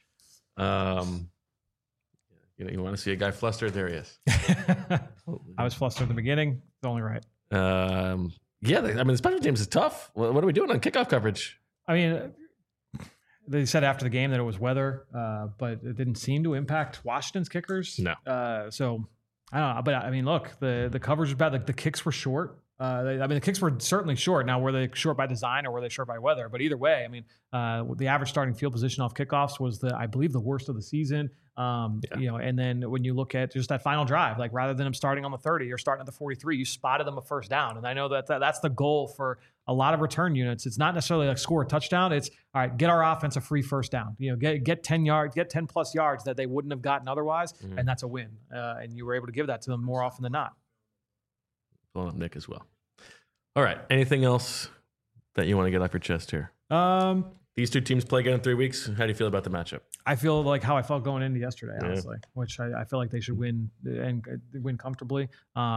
A: You want to see a guy flustered? There he is.
C: I was flustered in the beginning. It's only right.
A: The special teams is tough. What are we doing on kickoff coverage?
C: I mean, they said after the game that it was weather, but it didn't seem to impact Washington's kickers.
A: No.
C: So I don't know. But I mean, look, the coverage was bad. Like the kicks were short. The kicks were certainly short. Now, were they short by design or were they short by weather? But either way, I mean, the average starting field position off kickoffs was I believe the worst of the season. And then when you look at just that final drive, like rather than them starting on the 30 or starting at the 43, you spotted them a first down. And I know that's the goal for a lot of return units. It's not necessarily like score a touchdown. It's all right, get our offense a free first down. Get 10 yards, get 10 plus yards that they wouldn't have gotten otherwise, and that's a win. And you were able to give that to them more often than not.
A: Pulling up Nick as well. All right. Anything else that you want to get off your chest here? These two teams play again in 3 weeks. How do you feel about the matchup?
C: I feel like how I felt going into yesterday, honestly, which I feel like they should win and win comfortably.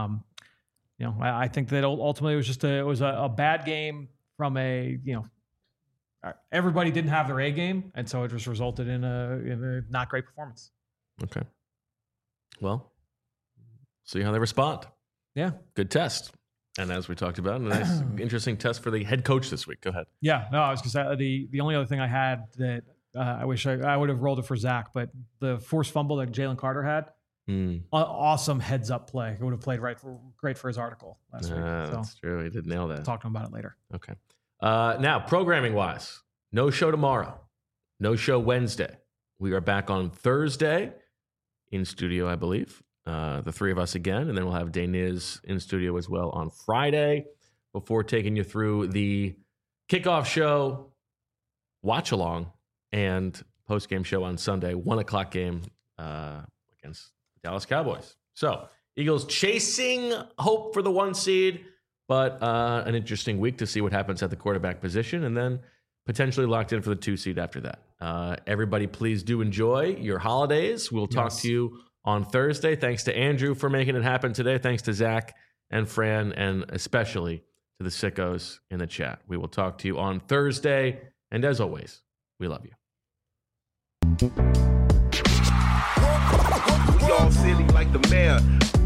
C: I think that ultimately it was a bad game from everybody didn't have their A game, and so it just resulted in a not great performance.
A: Okay. Well, see how they respond.
C: Yeah.
A: Good test. And as we talked about, a nice, interesting test for the head coach this week. Go ahead.
C: Yeah, no, I was going to say the only other thing I had that I wish I would have rolled it for Zach, but the forced fumble that Jalen Carter had, awesome heads up play. It would have played great for his article last week.
A: That's true. He did nail that.
C: I'll talk to him about it later.
A: Okay. Now, programming wise, no show tomorrow, no show Wednesday. We are back on Thursday in studio, I believe. The three of us again, and then we'll have Deniz in studio as well on Friday before taking you through the kickoff show, watch along, and post-game show on Sunday, 1:00 game against the Dallas Cowboys. So Eagles chasing hope for the 1 seed, but an interesting week to see what happens at the quarterback position, and then potentially locked in for the 2 seed after that. Everybody, please do enjoy your holidays. We'll talk to you on Thursday. Thanks to Andrew for making it happen today. Thanks to Zach and Fran, and especially to the sickos in the chat. We will talk to you on Thursday. And as always, we love you.
D: We all silly like the mayor.